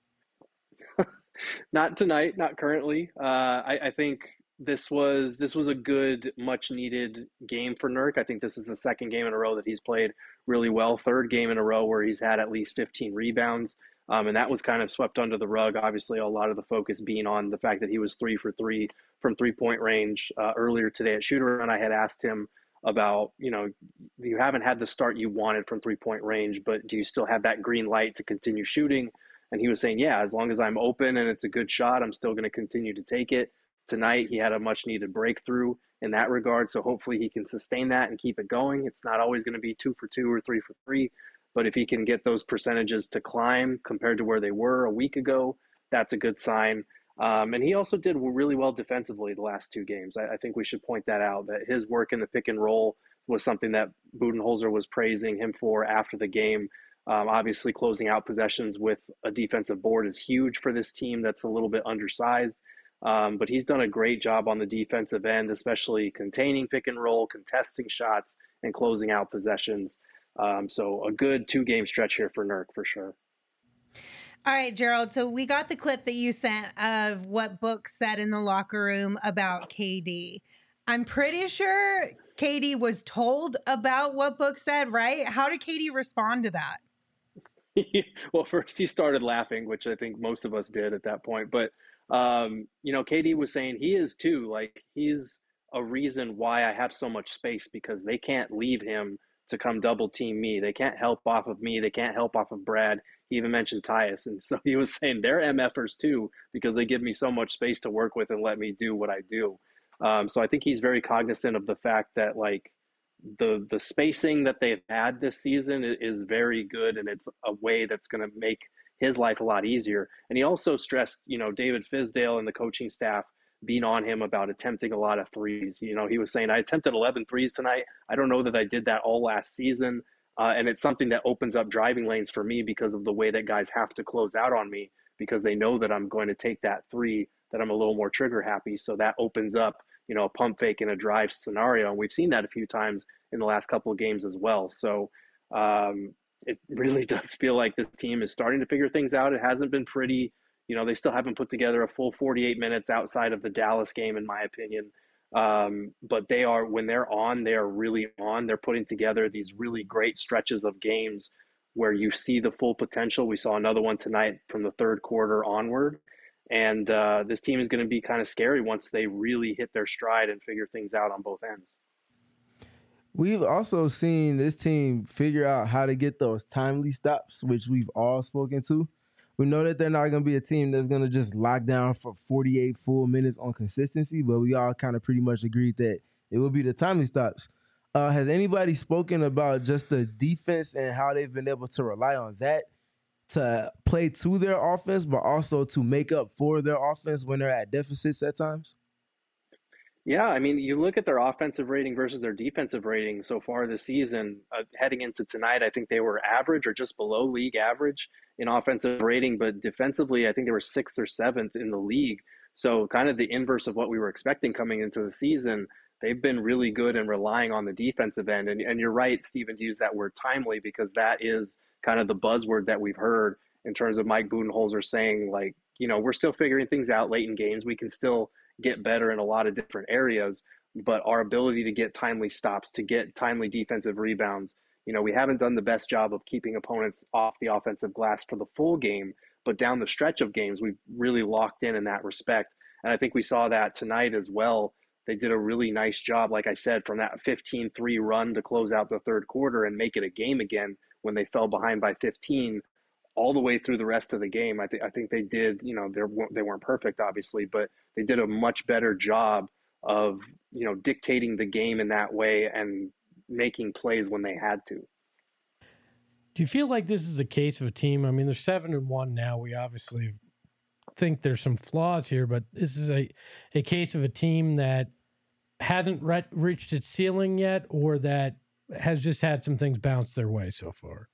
Not tonight, not currently. Uh, I, I think this was this was a good, much needed game for Nurk. I think this is the second game in a row that he's played really well. Third game in a row where he's had at least fifteen rebounds. Um, and that was kind of swept under the rug. Obviously, a lot of the focus being on the fact that he was three for three from three-point range uh, earlier today at Shooter. And I had asked him about, you know, you haven't had the start you wanted from three-point range, but do you still have that green light to continue shooting? And he was saying, yeah, as long as I'm open and it's a good shot, I'm still going to continue to take it. Tonight, he had a much-needed breakthrough in that regard, so hopefully he can sustain that and keep it going. It's not always going to be two for two or three for three. But if he can get those percentages to climb compared to where they were a week ago, that's a good sign. Um, and he also did really well defensively the last two games. I, I think we should point that out, that his work in the pick and roll was something that Budenholzer was praising him for after the game. Um, obviously, closing out possessions with a defensive board is huge for this team that's a little bit undersized. Um, but he's done a great job on the defensive end, especially containing pick and roll, contesting shots, and closing out possessions. Um, so a good two-game stretch here for Nurk for sure. All right, Gerald. So we got the clip that you sent of what Book said in the locker room about K D. I'm pretty sure Katie was told about what Book said, right? How did Katie respond to that? Well, first he started laughing, which I think most of us did at that point. But, um, you know, Katie was saying he is too. Like, he's a reason why I have so much space, because they can't leave him to come double team me. They can't help off of me. They can't help off of Brad. He even mentioned Tyus. And so he was saying they're MFers too, because they give me so much space to work with and let me do what I do. Um, so I think he's very cognizant of the fact that, like, the the spacing that they've had this season is very good, and it's a way that's going to make his life a lot easier. And he also stressed, you know, David Fizdale and the coaching staff being on him about attempting a lot of threes. You know, he was saying, I attempted eleven threes tonight. I don't know that I did that all last season. Uh, and it's something that opens up driving lanes for me because of the way that guys have to close out on me, because they know that I'm going to take that three, that I'm a little more trigger happy. So that opens up, you know, a pump fake and a drive scenario. And we've seen that a few times in the last couple of games as well. So um, it really does feel like this team is starting to figure things out. It hasn't been pretty. You know, they still haven't put together a full forty-eight minutes outside of the Dallas game, in my opinion. Um, but they are, when they're on, they are really on. They're putting together these really great stretches of games where you see the full potential. We saw another one tonight from the third quarter onward. And uh, this team is going to be kind of scary once they really hit their stride and figure things out on both ends. We've also seen this team figure out how to get those timely stops, which we've all spoken to. We know that they're not going to be a team that's going to just lock down for forty-eight full minutes on consistency, but we all kind of pretty much agreed that it will be the timely stops. Uh, has anybody spoken about just the defense and how they've been able to rely on that to play to their offense, but also to make up for their offense when they're at deficits at times? Yeah, I mean, you look at their offensive rating versus their defensive rating so far this season. Uh, heading into tonight, I think they were average or just below league average in offensive rating, but defensively, I think they were sixth or seventh in the league. So kind of the inverse of what we were expecting coming into the season. They've been really good and relying on the defensive end. And, and you're right, Stephen, to use that word timely, because that is kind of the buzzword that we've heard in terms of Mike Budenholzer saying, like, you know, we're still figuring things out late in games. We can still get better in a lot of different areas, but our ability to get timely stops, to get timely defensive rebounds, you know, we haven't done the best job of keeping opponents off the offensive glass for the full game, but down the stretch of games, we've really locked in in that respect. And I think we saw that tonight as well. They did a really nice job, like I said, from that fifteen three run to close out the third quarter and make it a game again when they fell behind by fifteen. All the way through the rest of the game. I think I think they did, you know, they weren't perfect, obviously, but they did a much better job of, you know, dictating the game in that way and making plays when they had to. Do you feel like this is a case of a team? I mean, they're seven and one now. We obviously think there's some flaws here, but this is a, a case of a team that hasn't re- reached its ceiling yet, or that has just had some things bounce their way so far.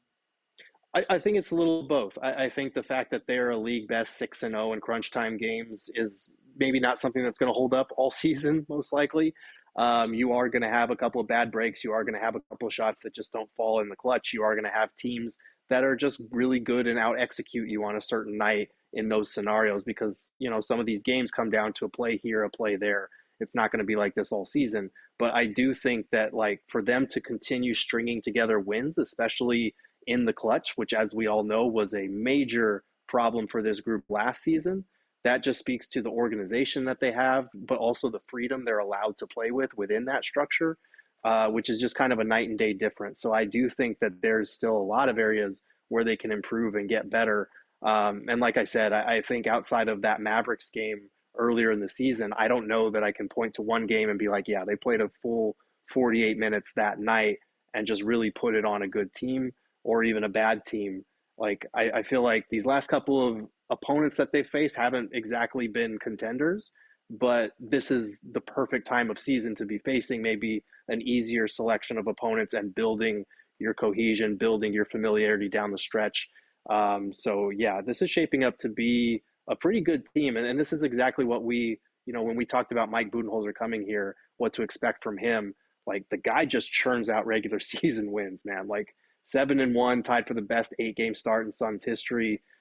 I, I think it's a little of both. I, I think the fact that they're a league best six and zero in crunch time games is maybe not something that's going to hold up all season. Most likely, um, you are going to have a couple of bad breaks. You are going to have a couple of shots that just don't fall in the clutch. You are going to have teams that are just really good and out execute you on a certain night in those scenarios, because, you know, some of these games come down to a play here, a play there. It's not going to be like this all season. But I do think that, like, for them to continue stringing together wins, especially in the clutch, which, as we all know, was a major problem for this group last season, that just speaks to the organization that they have, but also the freedom they're allowed to play with within that structure, uh, which is just kind of a night and day difference. So I do think that there's still a lot of areas where they can improve and get better. Um, and like I said, I, I think outside of that Mavericks game earlier in the season, I don't know that I can point to one game and be like, yeah, they played a full forty-eight minutes that night and just really put it on a good team or even a bad team. Like, I, I feel like these last couple of opponents that they face haven't exactly been contenders, but this is the perfect time of season to be facing maybe an easier selection of opponents and building your cohesion, building your familiarity down the stretch. Um, so yeah, this is shaping up to be a pretty good team. And, and this is exactly what we, you know, when we talked about Mike Budenholzer coming here, what to expect from him. Like, the guy just churns out regular season wins, man. Like, seven and one, tied for the best eight game start in Suns history.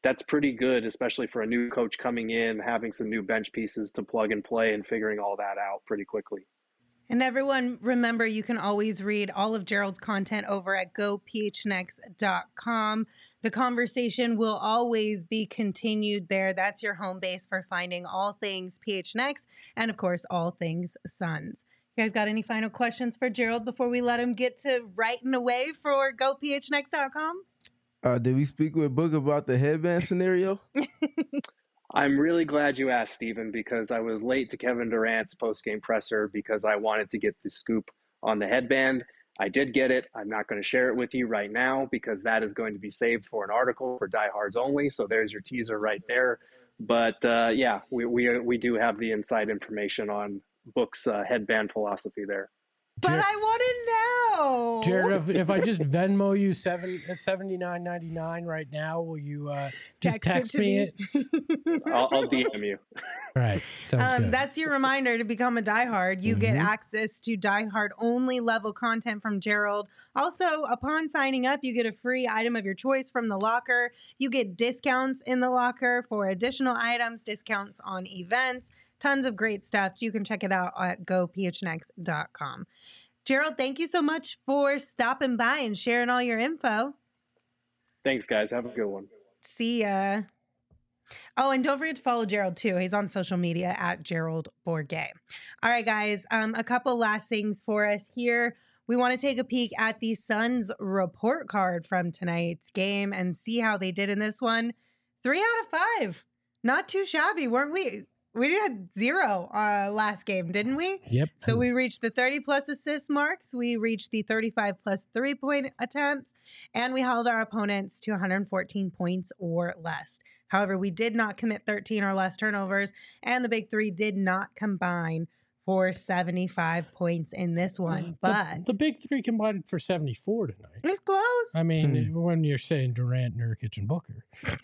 that's pretty good, especially for a new coach coming in, having some new bench pieces to plug and play and figuring all that out pretty quickly. And everyone, remember, you can always read all of Gerald's content over at go p h n x dot com. The conversation will always be continued there. That's your home base for finding all things P H N X and, of course, all things Suns. You guys got any final questions for Gerald before we let him get to writing away for go p h n x dot com? Uh, did we speak with Book about the headband scenario? I'm really glad you asked, Stephen, because I was late to Kevin Durant's post-game presser because I wanted to get the scoop on the headband. I did get it. I'm not going to share it with you right now because that is going to be saved for an article for diehards only. So there's your teaser right there. But uh, yeah, we, we we do have the inside information on Book's uh, headband philosophy there. But Jared, I want to know. Jared, if, if I just Venmo you seven seventy nine ninety nine right now, will you uh, just text, text it me, me it? I'll, I'll D M you. All right. Um, that's your reminder to become a diehard. You mm-hmm. get access to diehard only level content from Gerald. Also, upon signing up, you get a free item of your choice from the locker. You get discounts in the locker for additional items, discounts on events. Tons of great stuff. You can check it out at go p h n x dot com. Gerald, thank you so much for stopping by and sharing all your info. Thanks, guys. Have a good one. See ya. Oh, and don't forget to follow Gerald, too. He's on social media at Gerald Bourget. All right, guys. Um, a couple last things for us here. We want to take a peek at the Suns report card from tonight's game and see how they did in this one. Three out of five. Not too shabby, weren't we? We had zero uh, last game, didn't we? Yep. So we reached the thirty plus assist marks. We reached the thirty-five plus three point attempts, and we held our opponents to one hundred fourteen points or less. However, we did not commit thirteen or less turnovers, and the big three did not combine for seventy-five points in this one. But the, the big three combined for seventy-four tonight. It's close. I mean, hmm. when you're saying Durant, Nurkic, and Booker.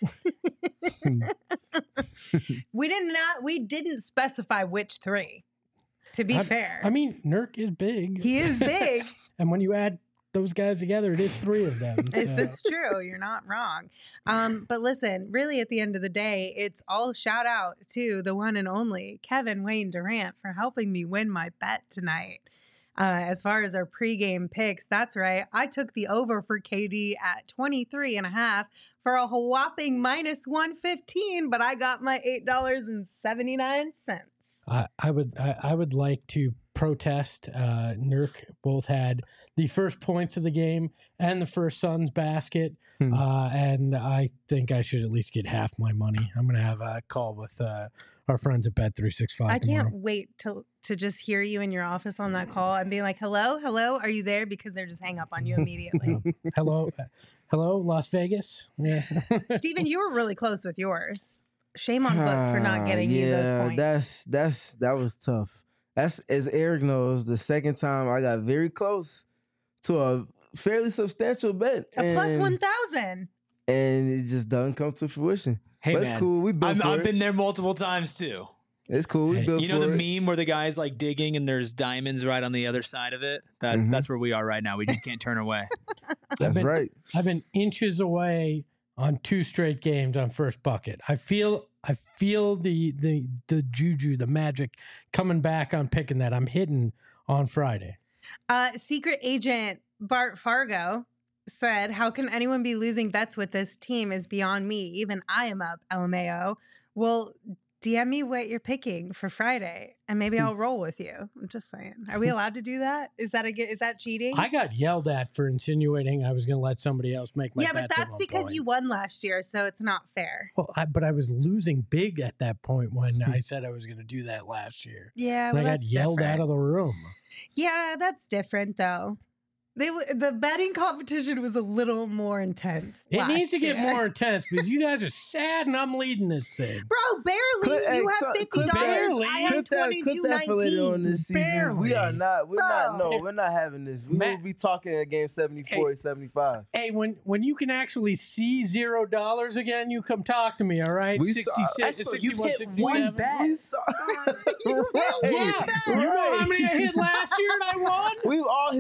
we did not. We didn't specify which three. To be I, fair, I mean, Nurk is big. He is big, and when you add those guys together, it is three of them. This so. is true. You're not wrong. Um, but listen, really, at the end of the day, it's all shout out to the one and only Kevin Wayne Durant for helping me win my bet tonight. Uh, as far as our pregame picks, that's right. I took the over for K D at twenty-three and a half for a whopping minus one fifteen, but I got my eight dollars and seventy-nine cents. I, I would I, I would like to protest. Uh, Nurk both had the first points of the game and the first Suns basket, hmm. uh, and I think I should at least get half my money. I'm going to have a call with uh, our friends at Bet three sixty-five I tomorrow. can't wait to to just hear you in your office on that call and be like, hello, hello, are you there? Because they're just hang up on you immediately. hello, uh, hello, Las Vegas. Yeah. Steven, you were really close with yours. Shame on Book for not getting uh, you yeah, those points. that's that's that was tough. That's, as Eric knows, the second time I got very close to a fairly substantial bet. A and, plus one thousand. And it just doesn't come to fruition. Hey, but man, it's cool. We built I'm, for I've it. been there multiple times, too. It's cool. We Hey, built You know for the it. meme where the guy's like digging and there's diamonds right on the other side of it? That's Mhm. that's where we are right now. We just can't turn away. That's been, right. I've been inches away on two straight games on first bucket. I feel I feel the the the juju, the magic coming back on picking that. I'm hitting on Friday. Uh, secret agent Bart Fargo said, how can anyone be losing bets with this team is beyond me. Even I am up, L M A O. Well, D M me what you're picking for Friday, and maybe I'll roll with you. I'm just saying. Are we allowed to do that? Is that a is that cheating? I got yelled at for insinuating I was going to let somebody else make my yeah, bets but that's because point. you won last year, so it's not fair. Well, I, but I was losing big at that point when I said I was going to do that last year. Yeah, and well, I got that's yelled different. out of the room. Yeah, that's different though. They w- the betting competition was a little more intense. It last needs to get year. more intense because you guys are sad and I'm leading this thing. Bro, barely. Clip- you hey, have so- fifty clip dollars. barely. I have Clip that, twenty clip two that for later on nineteen. this season. Barely. We are not. We're Bro. not. No, we're not having this. We Matt- will be talking at game seventy-four, Hey. seventy-five. Hey, when when you can actually see zero dollars again, you come talk to me, all right? We saw- sixty-six, Espo, sixty-one, you've hit sixty-seven. one bet. We saw- You Right. will Yeah, bet. you know how many I hit last year and I won? We've all hit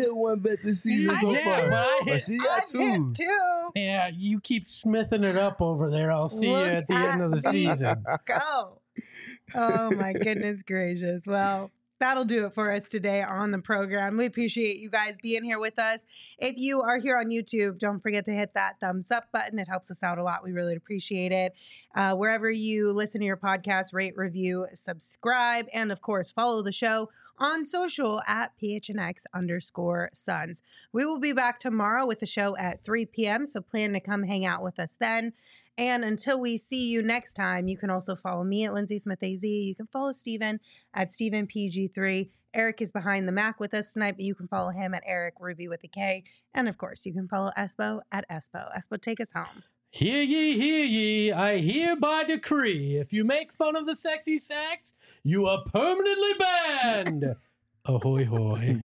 hit one bet this season I so hit far. two. I But hit- she got I've hit two. two. Yeah, you keep smithing it up over there. I'll see Look you at the end of the at me. season. Go. Oh my goodness gracious. Well, that'll do it for us today on the program. We appreciate you guys being here with us. If you are here on YouTube, don't forget to hit that thumbs up button. It helps us out a lot. We really appreciate it. Uh, wherever you listen to your podcast, rate, review, subscribe, and of course, follow the show on social at P H N X underscore Suns. We will be back tomorrow with the show at three p.m., so plan to come hang out with us then. And until we see you next time, you can also follow me at Lindsay Smith A Z. You can follow Steven at Steven P G three. Eric is behind the Mac with us tonight, but you can follow him at Eric Ruby with a K. And of course, you can follow Espo at Espo. Espo, take us home. Hear ye, hear ye, I hereby decree, if you make fun of the sexy sax, you are permanently banned. Ahoy hoy.